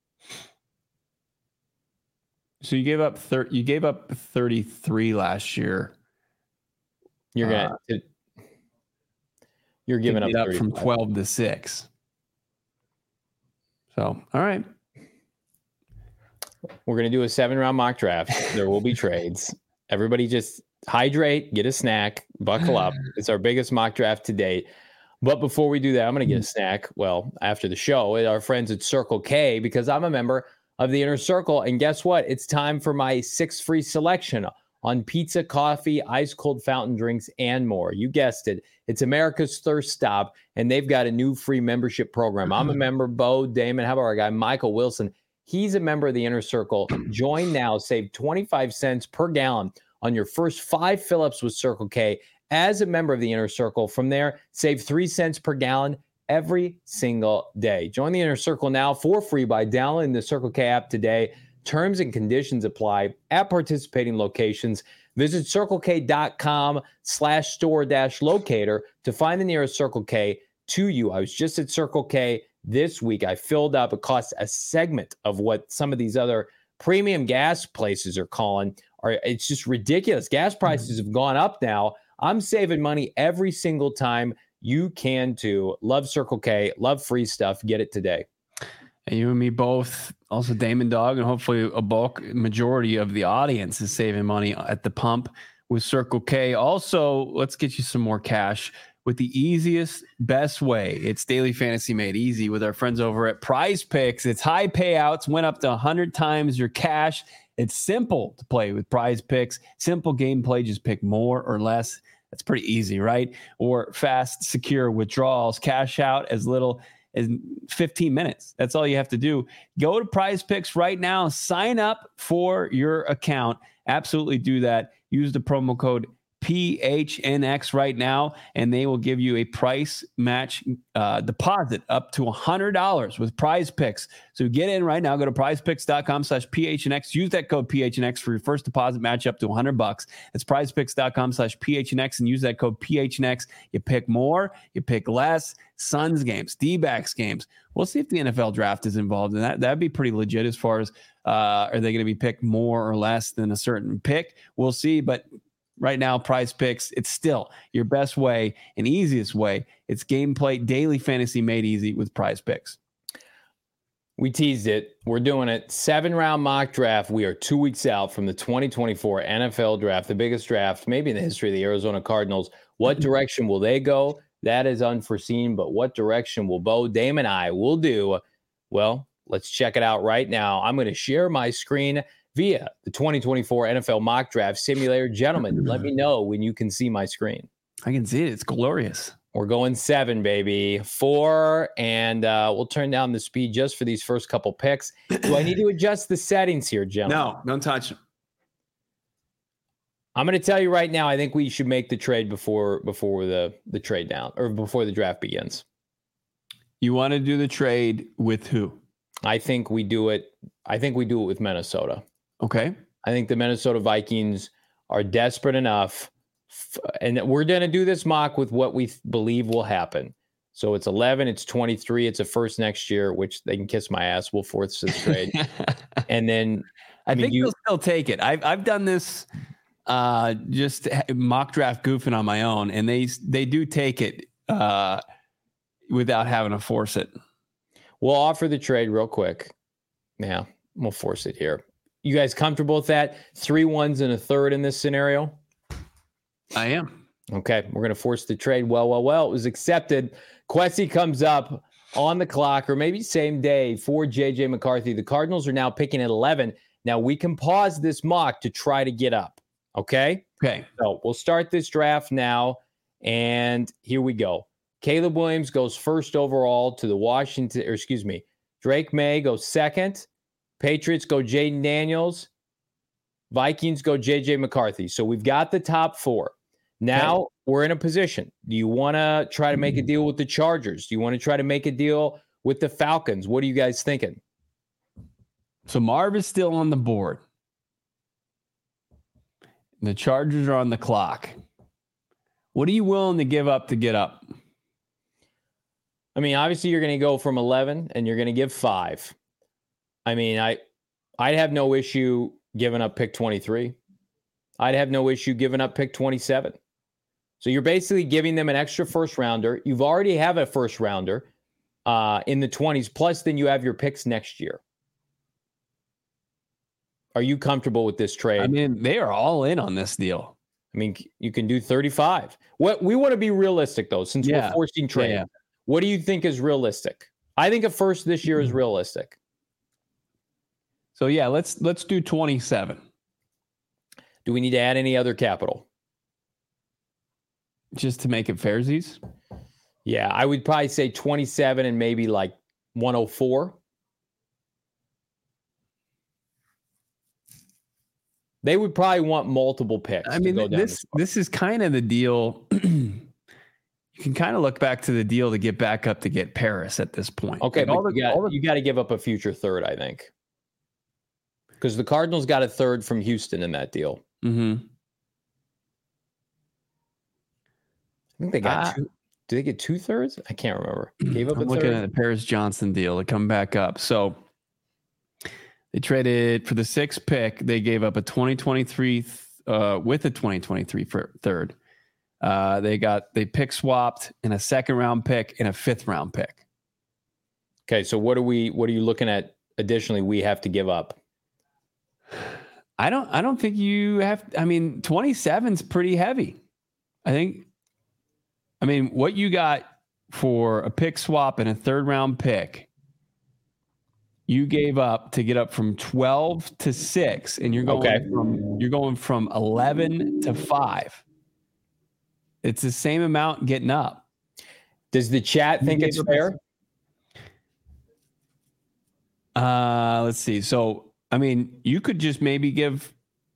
So you gave up 33 last year. You're giving up 35. From 12 to 6. So, all right. We're going to do a 7-round mock draft. There will be trades. Everybody just hydrate, get a snack, buckle up. It's our biggest mock draft to date. But before we do that, I'm going to get a snack. Well, after the show, at our friends at Circle K, because I'm a member of the Inner Circle. And guess what? It's time for my 6 free selection on pizza, coffee, ice cold fountain drinks, and more. You guessed it. It's America's Thirst Stop, and they've got a new free membership program. I'm a member. Bo, Damon, how about our guy, Michael Wilson? He's a member of the Inner Circle. Join now. Save 25 cents per gallon on your first 5 fill-ups with Circle K as a member of the Inner Circle. From there, save 3 cents per gallon every single day. Join the Inner Circle now for free by downloading the Circle K app today. Terms and conditions apply at participating locations. Visit circlek.com/store-locator to find the nearest Circle K to you. I was just at Circle K this week. I filled up. It costs a segment of what some of these other premium gas places are calling. It's just ridiculous. Gas prices have gone up now. I'm saving money every single time. You can too. Love Circle K. Love free stuff. Get it today. And you and me both. Also, Damon Dog, and hopefully a bulk majority of the audience is saving money at the pump with Circle K. Also, let's get you some more cash with the easiest, best way. It's daily fantasy made easy with our friends over at Prize Picks. It's high payouts, went up to 100 times your cash. It's simple to play with Prize Picks. Simple gameplay, just pick more or less. That's pretty easy, right? Or fast, secure withdrawals, cash out as little as 15 minutes. That's all you have to do. Go to Prize Picks right now. Sign up for your account. Absolutely do that. Use the promo code PHNX right now, and they will give you a price match deposit up to $100 with Prize Picks. So get in right now. Go to prizepicks.com/PHNX. Use that code PHNX for your first deposit match up to $100. That's prizepicks.com/PHNX and use that code PHNX. You pick more, you pick less. Suns games, D-backs games. We'll see if the NFL draft is involved in that. That'd be pretty legit as far as are they going to be picked more or less than a certain pick? We'll see, but right now, Prize Picks, it's still your best way and easiest way. It's gameplay, daily fantasy made easy with Prize Picks. We teased it. We're doing it. 7-round mock draft. We are 2 weeks out from the 2024 NFL draft, the biggest draft maybe in the history of the Arizona Cardinals. What direction will they go? That is unforeseen, but what direction will Bo, Dame, and I will do? Well, let's check it out right now. I'm going to share my screen via the 2024 NFL mock draft simulator. Gentlemen, let me know when you can see my screen. I can see it. It's glorious. We're going 7, baby. 4, and we'll turn down the speed just for these first couple picks. Do I need to adjust the settings here, gentlemen? No, don't touch them. I'm going to tell you right now, I think we should make the trade before the trade down or before the draft begins. You want to do the trade with who? I think we do it with Minnesota. Okay. I think the Minnesota Vikings are desperate enough, and we're going to do this mock with what we believe will happen. So it's 11, it's 23, it's a first next year, which they can kiss my ass. We'll force this trade. And then I think you'll still take it. I've done this just mock draft goofing on my own, and they do take it without having to force it. We'll offer the trade real quick. Yeah, we'll force it here. You guys comfortable with that? 3 1s and a third in this scenario? I am. Okay, we're going to force the trade. Well, it was accepted. Kwesi comes up on the clock, or maybe same day, for J.J. McCarthy. The Cardinals are now picking at 11. Now, we can pause this mock to try to get up, okay? Okay. So we'll start this draft now, and here we go. Caleb Williams goes first overall to the Drake May goes second. Patriots go Jaden Daniels. Vikings go J.J. McCarthy. So we've got the top 4. Now we're in a position. Do you want to try to make a deal with the Chargers? Do you want to try to make a deal with the Falcons? What are you guys thinking? So Marv is still on the board. The Chargers are on the clock. What are you willing to give up to get up? I mean, obviously you're going to go from 11 and you're going to give 5. I mean, I'd have no issue giving up pick 23. I'd have no issue giving up pick 27. So you're basically giving them an extra first rounder. You've already have a first rounder in the 20s, plus then you have your picks next year. Are you comfortable with this trade? I mean, they are all in on this deal. I mean, you can do 35. What we want to be realistic, though, since we're forcing trade. Yeah. What do you think is realistic? I think a first this year is realistic. So, yeah, let's do 27. Do we need to add any other capital? Just to make it fairsies? Yeah, I would probably say 27 and maybe like 104. They would probably want multiple picks. I mean, this is kind of the deal. You can kind of look back to the deal to get back up to get Paris at this point. Okay, like but you got to give up a future third, I think. Because the Cardinals got a third from Houston in that deal. Mm-hmm. I think they got two. Did they get 2/3? I can't remember. Gave up I'm looking at the Paris Johnson deal to come back up. So they traded for the 6th pick. They gave up a 2023 with a 2023 for third. They pick swapped in a 2nd round pick and a 5th round pick. Okay, so what are you looking at additionally we have to give up? I don't think you have. I mean, 27's pretty heavy. I think I mean, what you got for a pick swap and a 3rd-round pick, you gave up to get up from 12 to 6, and you're going from 11 to 5. It's the same amount getting up. Does the chat think it's fair? Let's see. So, I mean, you could just maybe give,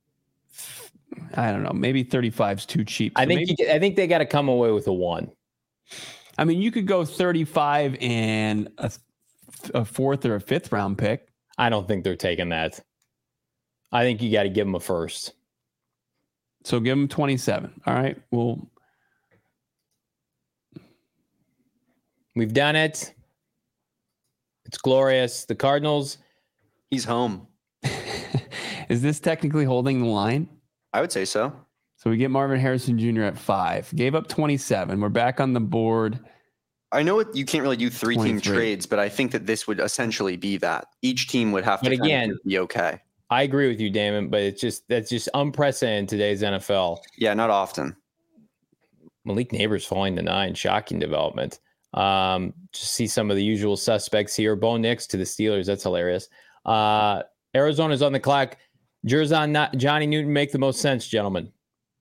I don't know, maybe 35 is too cheap. So I think they got to come away with a 1. I mean, you could go 35 and a 4th or a 5th round pick. I don't think they're taking that. I think you got to give them a 1st. So give them 27. All right. Well, we've done it. It's glorious. The Cardinals. He's home. Is this technically holding the line? I would say so. So we get Marvin Harrison Jr. at 5. Gave up 27. We're back on the board. I know you can't really do 3-team 23. trades, but I think that this would essentially be that. Each team would have to be okay. I agree with you, Damon, but that's just unprecedented in today's NFL. Yeah, not often. Malik Neighbors falling to 9, shocking development. Just see some of the usual suspects here. Bo Nix to the Steelers. That's hilarious. Arizona's on the clock. Jerzon, Johnny Newton make the most sense, gentlemen.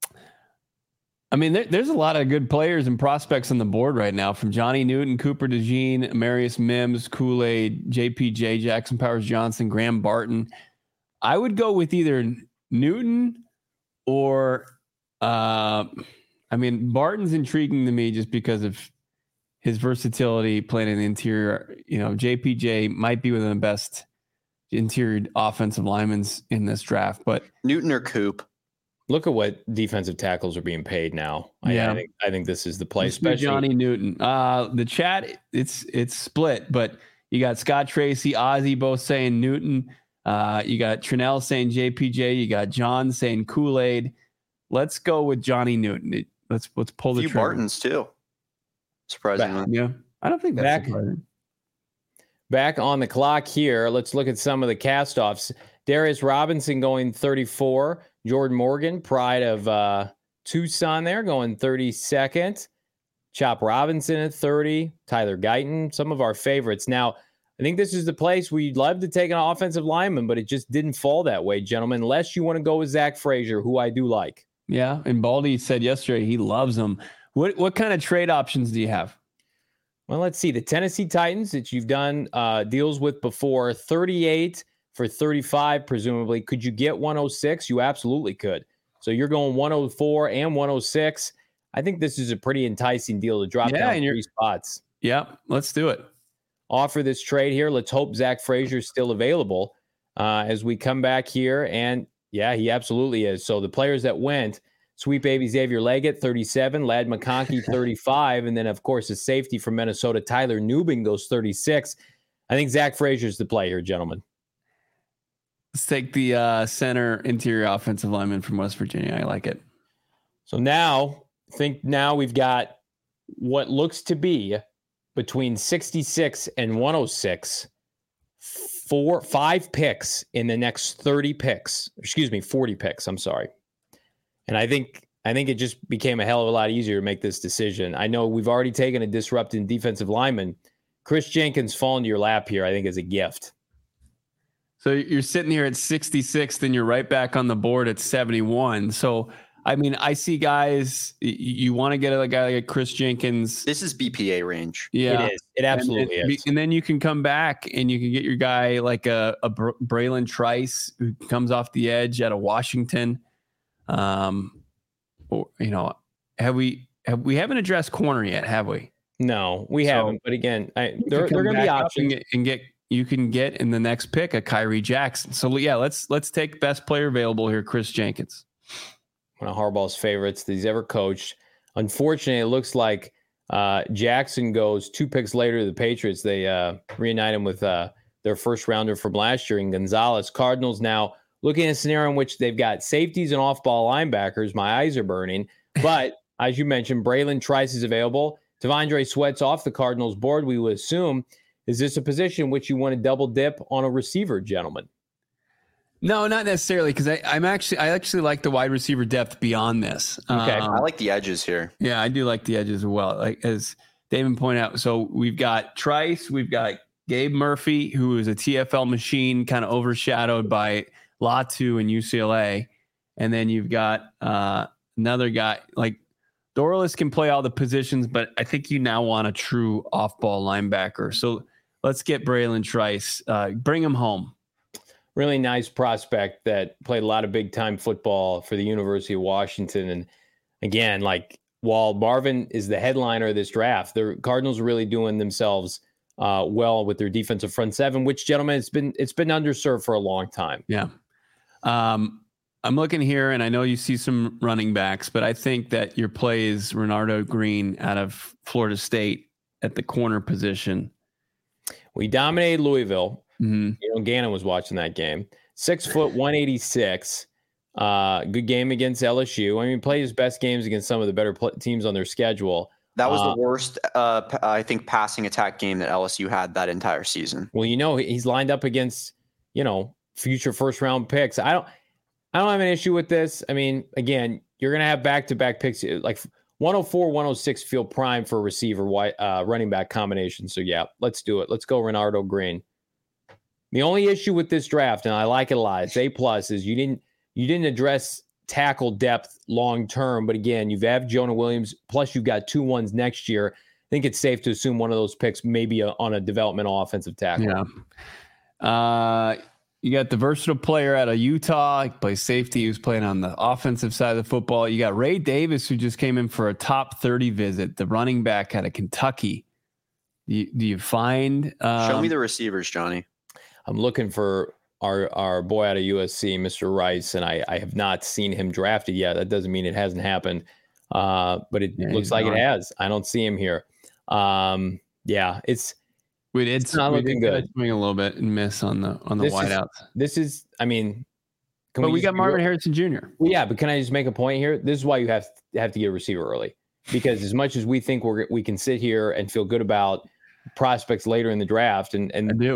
I mean, there's a lot of good players and prospects on the board right now, from Johnny Newton, Cooper DeJean, Marius Mims, Kool-Aid, JPJ, Jackson Powers Johnson, Graham Barton. I would go with either Newton or, I mean, Barton's intriguing to me just because of his versatility playing in the interior. You know, JPJ might be one of the best interior offensive linemen in this draft, but Newton or Coop. Look at what defensive tackles are being paid now. Yeah. I think this is the play. Especially Johnny Newton. The chat, it's split, but you got Scott Tracy, Ozzy both saying Newton. You got Trinell saying JPJ. You got John saying Kool-Aid. Let's go with Johnny Newton. Let's pull the trigger. A few Bartons too. Surprisingly. Yeah. I don't think that's surprising. Back on the clock here. Let's look at some of the cast-offs. Darius Robinson going 34. Jordan Morgan, pride of Tucson there, going 32nd. Chop Robinson at 30. Tyler Guyton, some of our favorites. Now, I think this is the place where you'd love to take an offensive lineman, but it just didn't fall that way, gentlemen, unless you want to go with Zach Frazier, who I do like. Yeah, and Baldy said yesterday he loves him. What kind of trade options do you have? Well, let's see. The Tennessee Titans that you've done deals with before, 38 for 35, presumably. Could you get 106? You absolutely could. So you're going 104 and 106. I think this is a pretty enticing deal to drop down 3 spots. Yeah, let's do it. Offer this trade here. Let's hope Zach Frazier is still available as we come back here. And yeah, he absolutely is. So the players that went, Sweet Baby Xavier Leggett, 37, Ladd McConkey, 35, and then, of course, a safety from Minnesota, Tyler Nubing, goes 36. I think Zach Frazier is the play here, gentlemen. Let's take the center interior offensive lineman from West Virginia. I like it. So now we've got what looks to be between 66 and 106, 5 picks in the next 40 picks. I'm sorry. And I think it just became a hell of a lot easier to make this decision. I know we've already taken a disrupting defensive lineman. Chris Jenkins falling to your lap here, I think, is a gift. So you're sitting here at 66, then you're right back on the board at 71. So, I mean, I see guys, you want to get a guy like Chris Jenkins. This is BPA range. Yeah. It is. It absolutely is. And then you can come back and you can get your guy like a Braylon Trice, who comes off the edge out of Washington. Or, you know, we haven't addressed corner yet, have we? No, we haven't. But again, they're going to be options. You can get in the next pick a Kyrie Jackson. So yeah, let's take best player available here, Chris Jenkins. One of Harbaugh's favorites that he's ever coached. Unfortunately, it looks like Jackson goes 2 picks later to the Patriots. They reunite him with their first rounder from last year in Gonzalez. Cardinals now looking at a scenario in which they've got safeties and off-ball linebackers. My eyes are burning. But as you mentioned, Braylon Trice is available. T'Vondre Sweat's off the Cardinals board, we would assume. Is this a position in which you want to double dip on a receiver, gentlemen? No, not necessarily, because I actually like the wide receiver depth beyond this. Okay. I like the edges here. Yeah, I do like the edges as well. Like as David pointed out, so we've got Trice, we've got Gabe Murphy, who is a TFL machine, kind of overshadowed by Latu and UCLA, and then you've got another guy like Dorlus can play all the positions, but I think you now want a true off-ball linebacker. So let's get Braylon Trice, bring him home. Really nice prospect that played a lot of big time football for the University of Washington. And again, like while Marvin is the headliner of this draft, the Cardinals are really doing themselves well with their defensive front seven, which, gentlemen, it's been underserved for a long time. Yeah. I'm looking here and I know you see some running backs, but I think that your play is Renardo Green out of Florida State at the corner position. We dominated Louisville. Mm-hmm. You know, Gannon was watching that game. 6 foot, 186. Good game against LSU. I mean, played his best games against some of the better teams on their schedule. That was the worst, I think, passing attack game that LSU had that entire season. Well, you know, he's lined up against, you know, future first round picks. I don't have an issue with this. I mean, again, you're going to have back-to-back picks. Like 104, 106 feel prime for a receiver running back combination. So, yeah, let's do it. Let's go Renardo Green. The only issue with this draft, and I like it a lot, it's A+, is you didn't address tackle depth long term. But again, you've had Jonah Williams, plus you've got 2 1s next year. I think it's safe to assume one of those picks maybe on a developmental offensive tackle. Yeah. You got the versatile player out of Utah. He plays safety. He was playing on the offensive side of the football. You got Ray Davis, who just came in for a top 30 visit, the running back out of Kentucky. Do you find show me the receivers, Johnny? I'm looking for our boy out of USC, Mr. Rice, and I have not seen him drafted yet. That doesn't mean it hasn't happened, but it looks like it has. I don't see him here. It's not looking good. Swing a little bit and miss on the wideouts. This is, I mean, but we got Marvin Harrison Jr. Well, yeah, but can I just make a point here? This is why you have to get a receiver early, because as much as we think we can sit here and feel good about prospects later in the draft, and I do.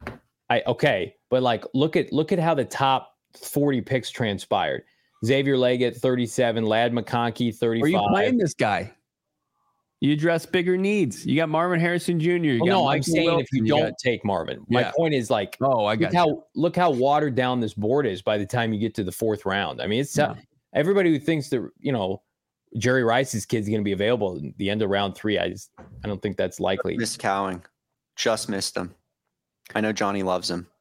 But like look at how the top 40 picks transpired. Xavier Leggett, 37, Ladd McConkey, 35. Are you playing this guy? You address bigger needs. You got Marvin Harrison Jr. I'm saying if you don't take Marvin. My point is like, look how watered down this board is by the time you get to the 4th round. I mean, it's everybody who thinks that, you know, Jerry Rice's kid's going to be available at the end of round 3. I don't think that's likely. Missed Cowing. Just missed him. I know Johnny loves him.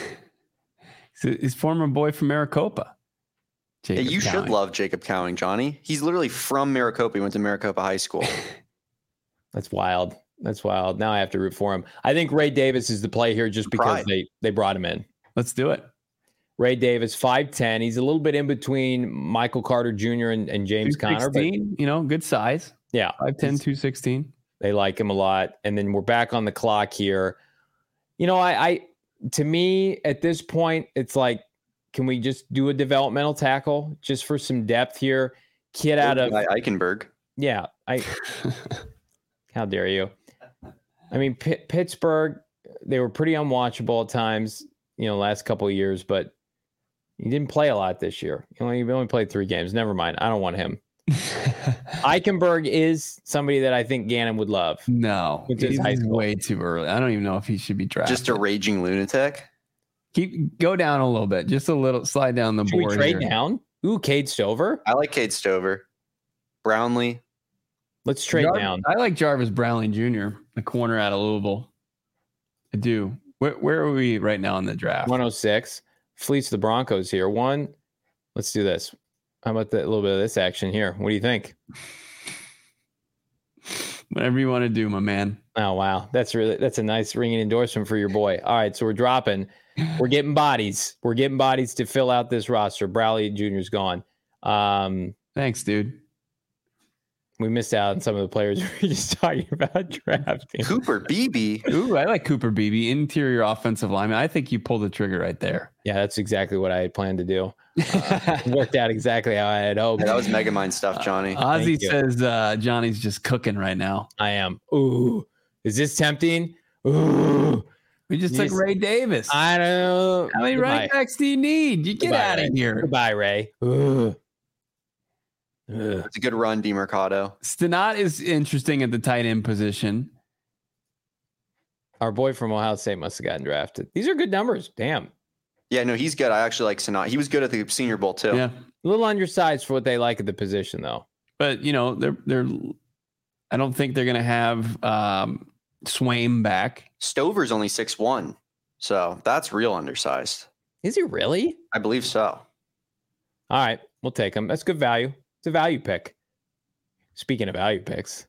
His former boy from Maricopa. You should love Jacob Cowing, Johnny. He's literally from Maricopa. He went to Maricopa High School. That's wild. Now I have to root for him. I think Ray Davis is the play here just because they brought him in. Let's do it. Ray Davis, 5'10". He's a little bit in between Michael Carter Jr. and James Conner. But, you know, good size. Yeah. 5'10", 216. They like him a lot. And then we're back on the clock here. You know, to me, at this point, it's like, can we just do a developmental tackle just for some depth here? Kid out of Eichenberg. Yeah. How dare you? I mean, Pittsburgh, they were pretty unwatchable at times, you know, last couple of years, but he didn't play a lot this year. He only played 3 games. Never mind. I don't want him. Eichenberg is somebody that I think Gannon would love. No, he's way too early. I don't even know if he should be drafted. Just a raging lunatic. Go down a little bit, just a little, slide down the board. Should we trade down? Ooh, Cade Stover. I like Cade Stover. Brownlee. Let's trade down. I like Jarvis Brownlee Jr., the corner out of Louisville. I do. Where are we right now in the draft? 106. Fleets the Broncos here. Let's do this. How about a little bit of this action here? What do you think? Whatever you want to do, my man. Oh, wow. That's a nice ringing endorsement for your boy. All right, so we're dropping. We're getting bodies. We're getting bodies to fill out this roster. Brownlee Jr.'s gone. Thanks, dude. We missed out on some of the players we were just talking about drafting. Cooper Beebe. Ooh, I like Cooper Beebe, interior offensive lineman. I think you pulled the trigger right there. Yeah, that's exactly what I had planned to do. Worked out exactly how I had hoped. Yeah, that was Megamind stuff, Johnny. Ozzy says Johnny's just cooking right now. I am. Ooh, is this tempting? Ooh, We just took Ray Davis. I don't know. How many running backs do you need? You get out of here. Goodbye, Ray. It's a good run, DeMercado. Stenat is interesting at the tight end position. Our boy from Ohio State must have gotten drafted. These are good numbers. Damn. Yeah, no, he's good. I actually like Stenat. He was good at the Senior Bowl too. Yeah, a little undersized for what they like at the position, though. But they're. I don't think they're going to have Swaim back. Stover's only 6'1", so that's real undersized. Is he really? I believe so. All right, we'll take him. That's good value. It's a value pick. Speaking of value picks,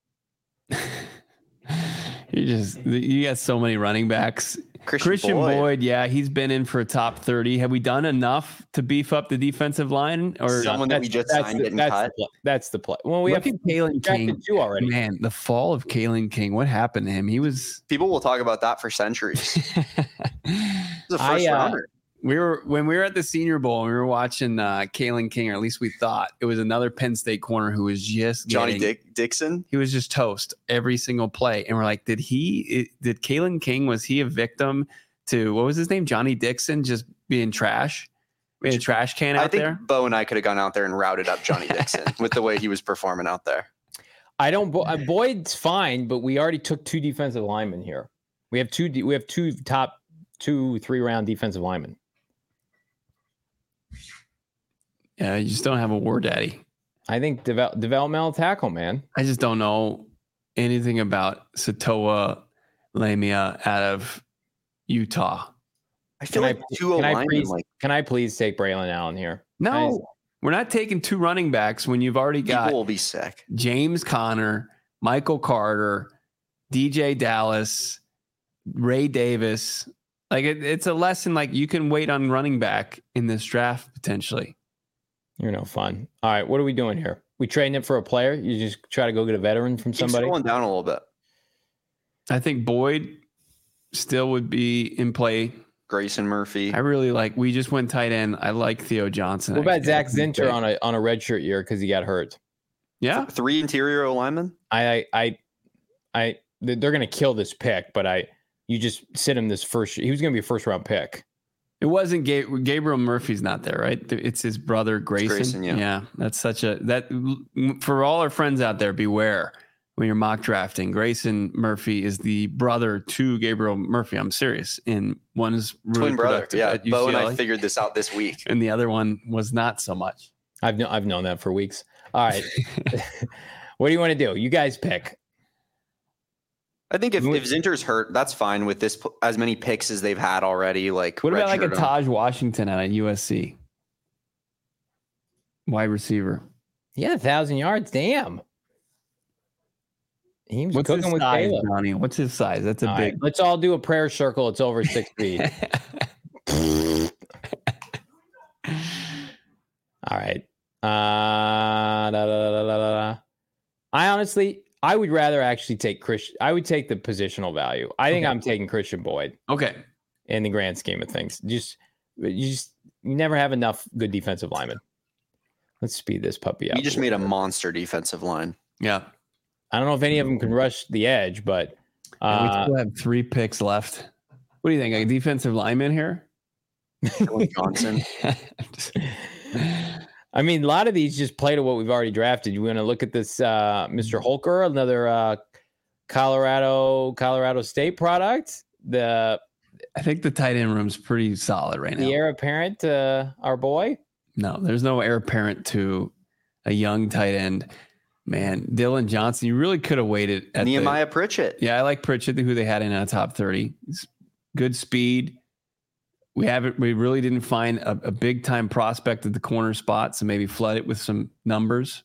you got so many running backs. Christian Boyd, yeah, he's been in for a top 30. Have we done enough to beef up the defensive line, or someone that we just signed getting cut? That's the play. Well, we Look have at Kalen King two already. Man, the fall of Kalen King. What happened to him? People will talk about that for centuries. The first rounder. When we were at the Senior Bowl, we were watching Kalen King, or at least we thought it was another Penn State corner who was just Johnny Dixon. He was just toast every single play, and we're like, did Kalen King, was he a victim to what was his name, Johnny Dixon, just being trash? We had a trash can out there. I think Bo and I could have gone out there and routed up Johnny Dixon with the way he was performing out there. Boyd's fine, but we already took 2 defensive linemen here. We have two top 2-3 round defensive linemen. Yeah, you just don't have a war daddy. I think developmental tackle, man. I just don't know anything about Satoa Lamia out of Utah. I feel like can I please take Braylon Allen here? No, we're not taking 2 running backs when you've already got. People will be sick. James Conner, Michael Carter, DJ Dallas, Ray Davis. Like it's a lesson. Like you can wait on running back in this draft potentially. You're no fun. All right, what are we doing here? We trading it for a player? You just try to go get a veteran from somebody? Keep scrolling down a little bit. I think Boyd still would be in play. Grayson Murphy. I really like. We just went tight end. I like Theo Johnson. What about Zach Zinter on a redshirt year because he got hurt? Yeah, 3 interior linemen. They're gonna kill this pick, but you just sit him this first. He was gonna be a first round pick. It wasn't Gabriel Murphy's not there, right? It's his brother Grayson. Yeah, that's for all our friends out there. Beware when you're mock drafting. Grayson Murphy is the brother to Gabriel Murphy. I'm serious. And one is really twin brother. Yeah, Bo and I figured this out this week, and the other one was not so much. I've known that for weeks. All right, what do you want to do? You guys pick. I think if Zinter's hurt, that's fine with this as many picks as they've had already. Like, what about like a Taj Washington out of USC? Wide receiver. Yeah, 1,000 yards. Damn. He was What's cooking his with size, Caleb. Johnny? What's his size? That's a big. Right, let's all do a prayer circle. It's over 6 feet. All right. I would rather actually take Christian. I would take the positional value. I think I'm taking Christian Boyd. Okay. In the grand scheme of things, you never have enough good defensive linemen. Let's speed this puppy up. You just made a monster defensive line. Yeah. I don't know if any of them can rush the edge, but we still have 3 picks left. What do you think? A defensive lineman here? Johnson. I mean, a lot of these just play to what we've already drafted. You want to look at this, Mr. Holker, another Colorado State product. I think the tight end room's pretty solid right now. The heir apparent, our boy. No, there's no heir apparent to a young tight end. Man, Dylan Johnson, you really could have waited at Nehemiah Pritchett. Yeah, I like Pritchett, who they had in a top 30. Good speed. We really didn't find a big time prospect at the corner spot, so maybe flood it with some numbers.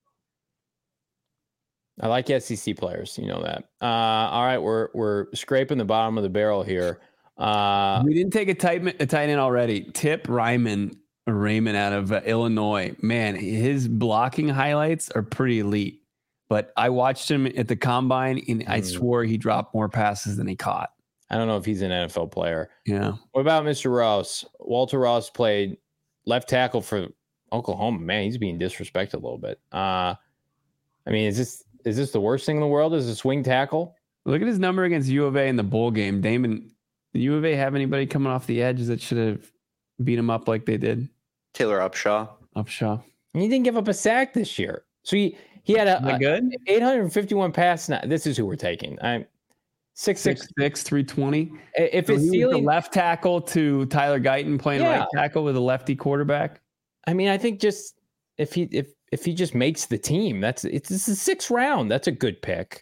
I like SEC players, you know that. All right, we're scraping the bottom of the barrel here. We didn't take a tight end already. Tip Raymond out of Illinois. Man, his blocking highlights are pretty elite. But I watched him at the combine, and I swore he dropped more passes than he caught. I don't know if he's an NFL player. Yeah. What about Mr. Ross? Walter Ross played left tackle for Oklahoma. Man, he's being disrespected a little bit. I mean, is this the worst thing in the world? Is a swing tackle? Look at his number against U of A in the bowl game. Damon, did U of A have anybody coming off the edge that should have beat him up like they did? Taylor Upshaw. Upshaw. And he didn't give up a sack this year. So he had a good 851 pass. Now, this is who we're taking. I'm 6'6", 320. If So his he was the ceiling, left tackle to Tyler Guyton playing Yeah. right tackle with a lefty quarterback. I mean, I think just if he just makes the team, it's the 6th round. That's a good pick.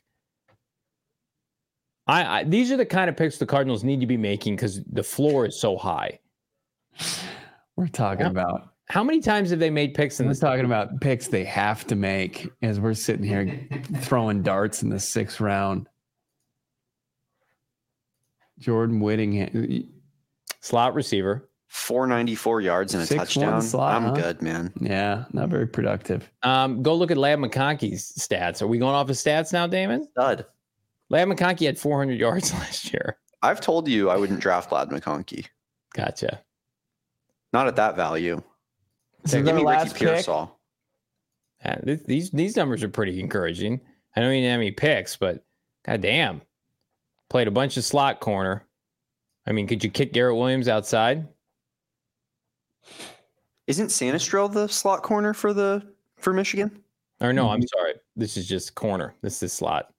These are the kind of picks the Cardinals need to be making because the floor is so high. We're talking about. How many times have they made picks in We're this? talking about picks they have to make as we're sitting here throwing darts in the 6th round. Jordan Whittingham. Slot receiver. 494 yards and a 6'1" touchdown. slot, I'm huh? good, man. Yeah, not very productive. Go look at Ladd McConkey's stats. Are we going off his stats now, Damon? Stud. Ladd McConkey had 400 yards last year. I've told you I wouldn't draft Ladd McConkey. Gotcha. Not at that value. So Give their me last Ricky pick, Pearsall. Yeah, these numbers are pretty encouraging. I don't even have any picks, but goddamn, played a bunch of slot corner. I mean, could you kick Garrett Williams outside? Isn't Sanistrell the slot corner for Michigan? Or no, I'm sorry. This is just corner. This is slot.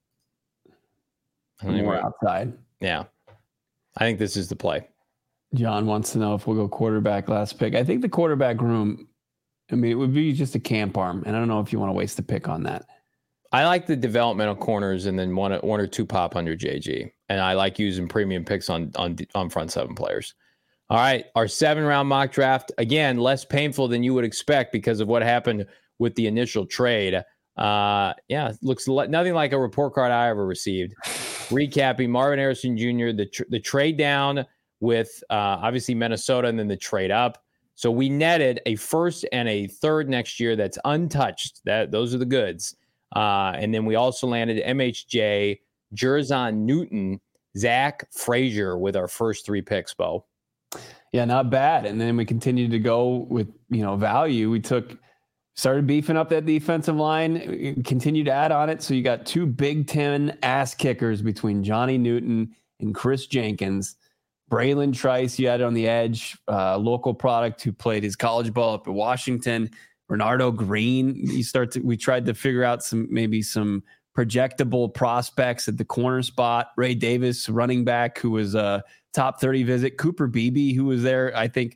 I don't even more know. outside. Yeah, I think this is the play. John wants to know if we'll go quarterback last pick. I think the quarterback room, I mean, it would be just a camp arm. And I don't know if you want to waste a pick on that. I like the developmental corners and then one or two pop under JG. And I like using premium picks on front 7 players. All right, our 7-round mock draft, again, less painful than you would expect because of what happened with the initial trade. Looks nothing like a report card I ever received. Recapping, Marvin Harrison Jr., the trade down with obviously Minnesota and then the trade up. So we netted a 1st and a 3rd next year that's untouched. Those are the goods. And then we also landed MHJ, Jerzon Newton, Zach Frazier with our first 3 picks, Bo. Yeah, not bad. And then we continued to go with, value. We started beefing up that defensive line, continued to add on it. So you got 2 Big Ten ass kickers between Johnny Newton and Chris Jenkins. Braylon Trice, you had on the edge, local product who played his college ball up at Washington. Renardo Green, we tried to figure out some projectable prospects at the corner spot. Ray Davis, running back, who was a top 30 visit. Cooper Beebe, who was there, I think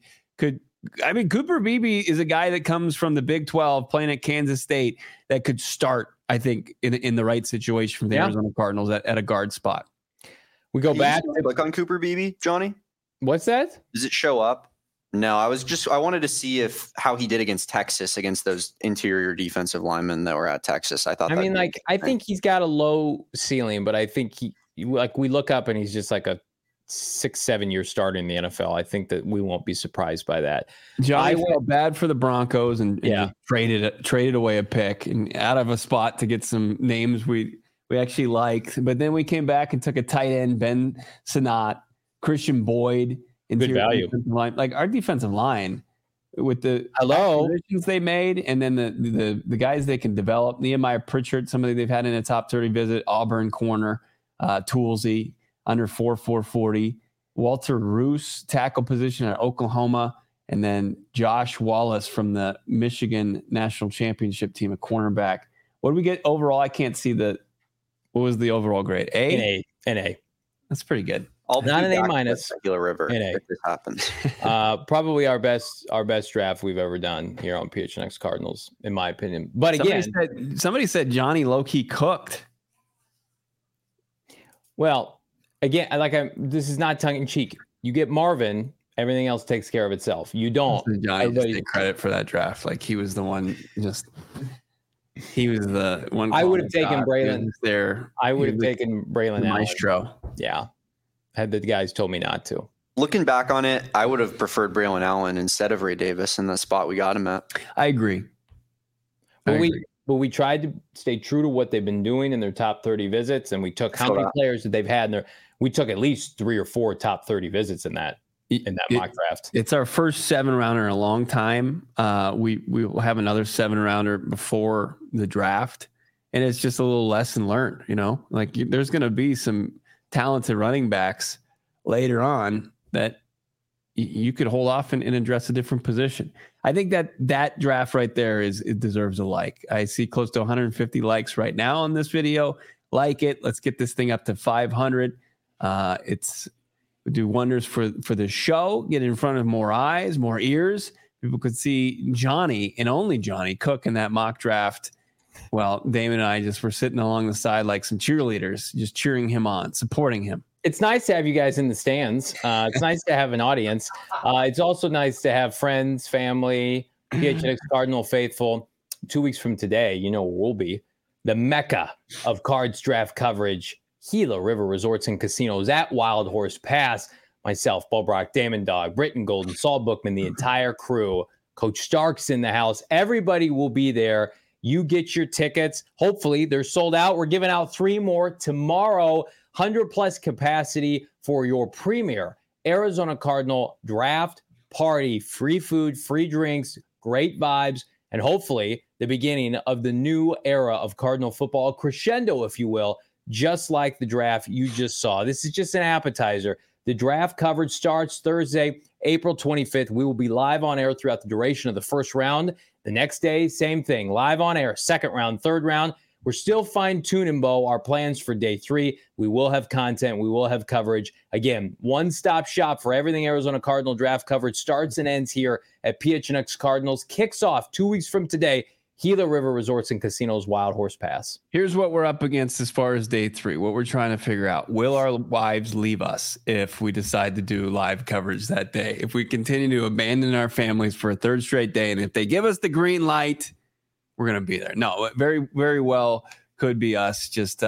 Cooper Beebe is a guy that comes from the Big 12 playing at Kansas State that could start, I think, in the right situation for the Arizona Cardinals at a guard spot. We go back. Click on Cooper Beebe, Johnny. What's that? Does it show up? No, I wanted to see how he did against Texas, against those interior defensive linemen that were at Texas. I think he's got a low ceiling, but I think we look up and he's just like a 6-7 year starter in the NFL. I think that we won't be surprised by that. Johnny felt bad for the Broncos and traded away a pick and out of a spot to get some names we actually liked. But then we came back and took a tight end, Ben Sinnott, Christian Boyd. Good value. Line. Like our defensive line with the acquisitions they made, and then the guys they can develop. Nehemiah Pritchard, somebody they've had in a top 30 visit. Auburn corner, Toolsy under 4.40. Walter Roos, tackle position at Oklahoma, and then Josh Wallace from the Michigan National Championship team, a cornerback. What did we get overall? I can't see what was the overall grade? An A. That's pretty good. Not an A-. Regular River. If this happens. Probably our best draft we've ever done here on PHNX Cardinals, in my opinion. But again, somebody said Johnny low-key cooked. Well, again, this is not tongue in cheek. You get Marvin, everything else takes care of itself. You don't. Johnny just take credit for that draft. Like he was the one. He was the one. I would have taken Braylon there. I would have taken Braylon Maestro. Yeah. Had the guys told me not to. Looking back on it, I would have preferred Braylon Allen instead of Ray Davis in the spot we got him at. I agree. But we tried to stay true to what they've been doing in their top 30 visits, and we took how many players that they've had in there. We took at least 3 or 4 top 30 visits in that mock draft. It's our first 7-rounder in a long time. We will have another 7-rounder before the draft, and it's just a little lesson learned, like there's going to be some talented running backs later on that you could hold off and address a different position. I think that draft right there it deserves a like. I see close to 150 likes right now on this video. Like it. Let's get this thing up to 500. It's do wonders for the show. Get in front of more eyes, more ears. People could see Johnny and only Johnny Cook in that mock draft. Well, Damon and I just were sitting along the side like some cheerleaders, just cheering him on, supporting him. It's nice to have you guys in the stands. It's nice to have an audience. It's also nice to have friends, family, PHNX Cardinal faithful. 2 weeks from today, we'll be the Mecca of Cards draft coverage, Gila River Resorts and Casinos at Wild Horse Pass. Myself, Bo Brock, Damon Dog, Britton Golden, Saul Bookman, the entire crew. Coach Stark's in the house. Everybody will be there. You get your tickets. Hopefully, they're sold out. We're giving out 3 more tomorrow. 100-plus capacity for your premier Arizona Cardinal draft party. Free food, free drinks, great vibes, and hopefully the beginning of the new era of Cardinal football, a crescendo, if you will, just like the draft you just saw. This is just an appetizer. The draft coverage starts Thursday, April 25th. We will be live on air throughout the duration of the first round. The next day, same thing, live on air, second round, third round. We're still fine-tuning, Bo, our plans for day 3. We will have content. We will have coverage. Again, one-stop shop for everything Arizona Cardinal draft coverage starts and ends here at PHNX Cardinals. Kicks off 2 weeks from today, Gila River Resorts and Casinos, Wild Horse Pass. Here's what we're up against as far as day 3, what we're trying to figure out. Will our wives leave us if we decide to do live coverage that day? If we continue to abandon our families for a third straight day, and if they give us the green light, we're going to be there. No, very, very well could be us just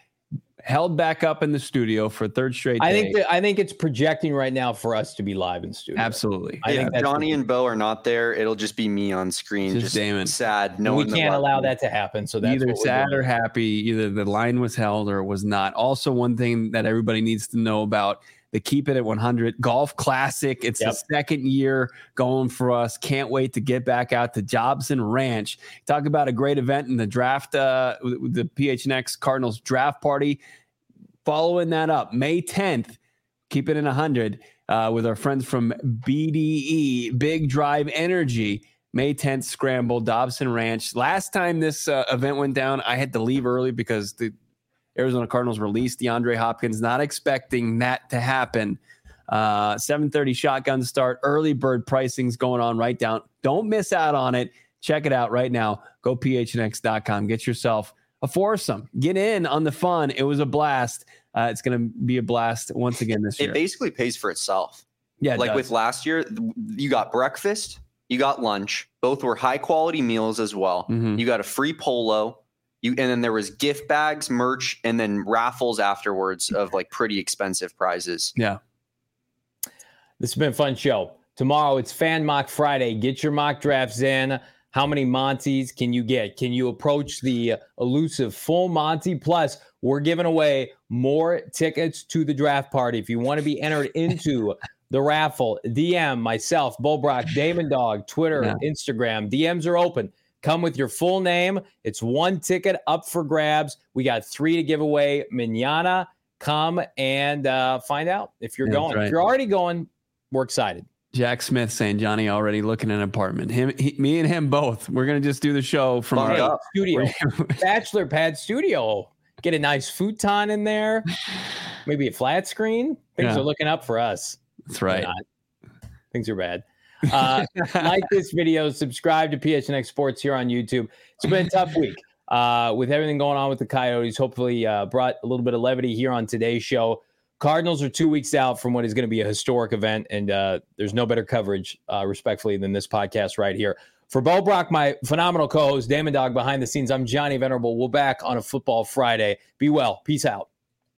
held back up in the studio for a third straight day. I think it's projecting right now for us to be live in studio. Absolutely. I think Johnny and Bo are not there. It'll just be me on screen. Just Damon. Sad. No, we can't allow that to happen. So that's either sad or happy. Either the line was held or it was not. Also, one thing that everybody needs to know about the Keep It at 100 Golf Classic. It's the second year going for us. Can't wait to get back out to Jobson Ranch. Talk about a great event in the draft, the PHNX Cardinals draft party. Following that up, May 10th, Keep It in 100 with our friends from BDE, Big Drive Energy. May 10th, Scramble, Dobson Ranch. Last time this event went down, I had to leave early because the Arizona Cardinals released DeAndre Hopkins, not expecting that to happen. 7:30 shotgun start, early bird pricing's going on right down. Don't miss out on it. Check it out right now. Go phnx.com. Get yourself a foursome. Get in on the fun. It was a blast. It's going to be a blast once again this year. It basically pays for itself. Yeah, like with last year, you got breakfast, you got lunch. Both were high quality meals as well. Mm-hmm. You got a free polo. And then there was gift bags, merch, and then raffles afterwards of like pretty expensive prizes. Yeah. This has been a fun show. Tomorrow it's Fan Mock Friday. Get your mock drafts in. How many Monties can you get? Can you approach the elusive full Monty? Plus, we're giving away more tickets to the draft party. If you want to be entered into the raffle, DM myself, Bo Brock, Damon Dog, Twitter, Instagram. DMs are open. Come with your full name. It's 1 ticket up for grabs. We got 3 to give away. Manana, come and find out if you're going. Right. If you're already going, we're excited. Jack Smith saying Johnny already looking at an apartment. Me and him both. We're going to just do the show from our studio. Bachelor pad studio. Get a nice futon in there. Maybe a flat screen. Things are looking up for us. That's right. Things are bad. Like this video, subscribe to PHNX Sports here on YouTube. It's been a tough week with everything going on with the Coyotes. Hopefully brought a little bit of levity here on today's show. Cardinals are 2 weeks out from what is going to be a historic event, and there's no better coverage, respectfully, than this podcast right here. For Bo Brock, my phenomenal co-host, Damon Dog behind the scenes, I'm Johnny Venerable. We're back on a Football Friday. Be well. Peace out.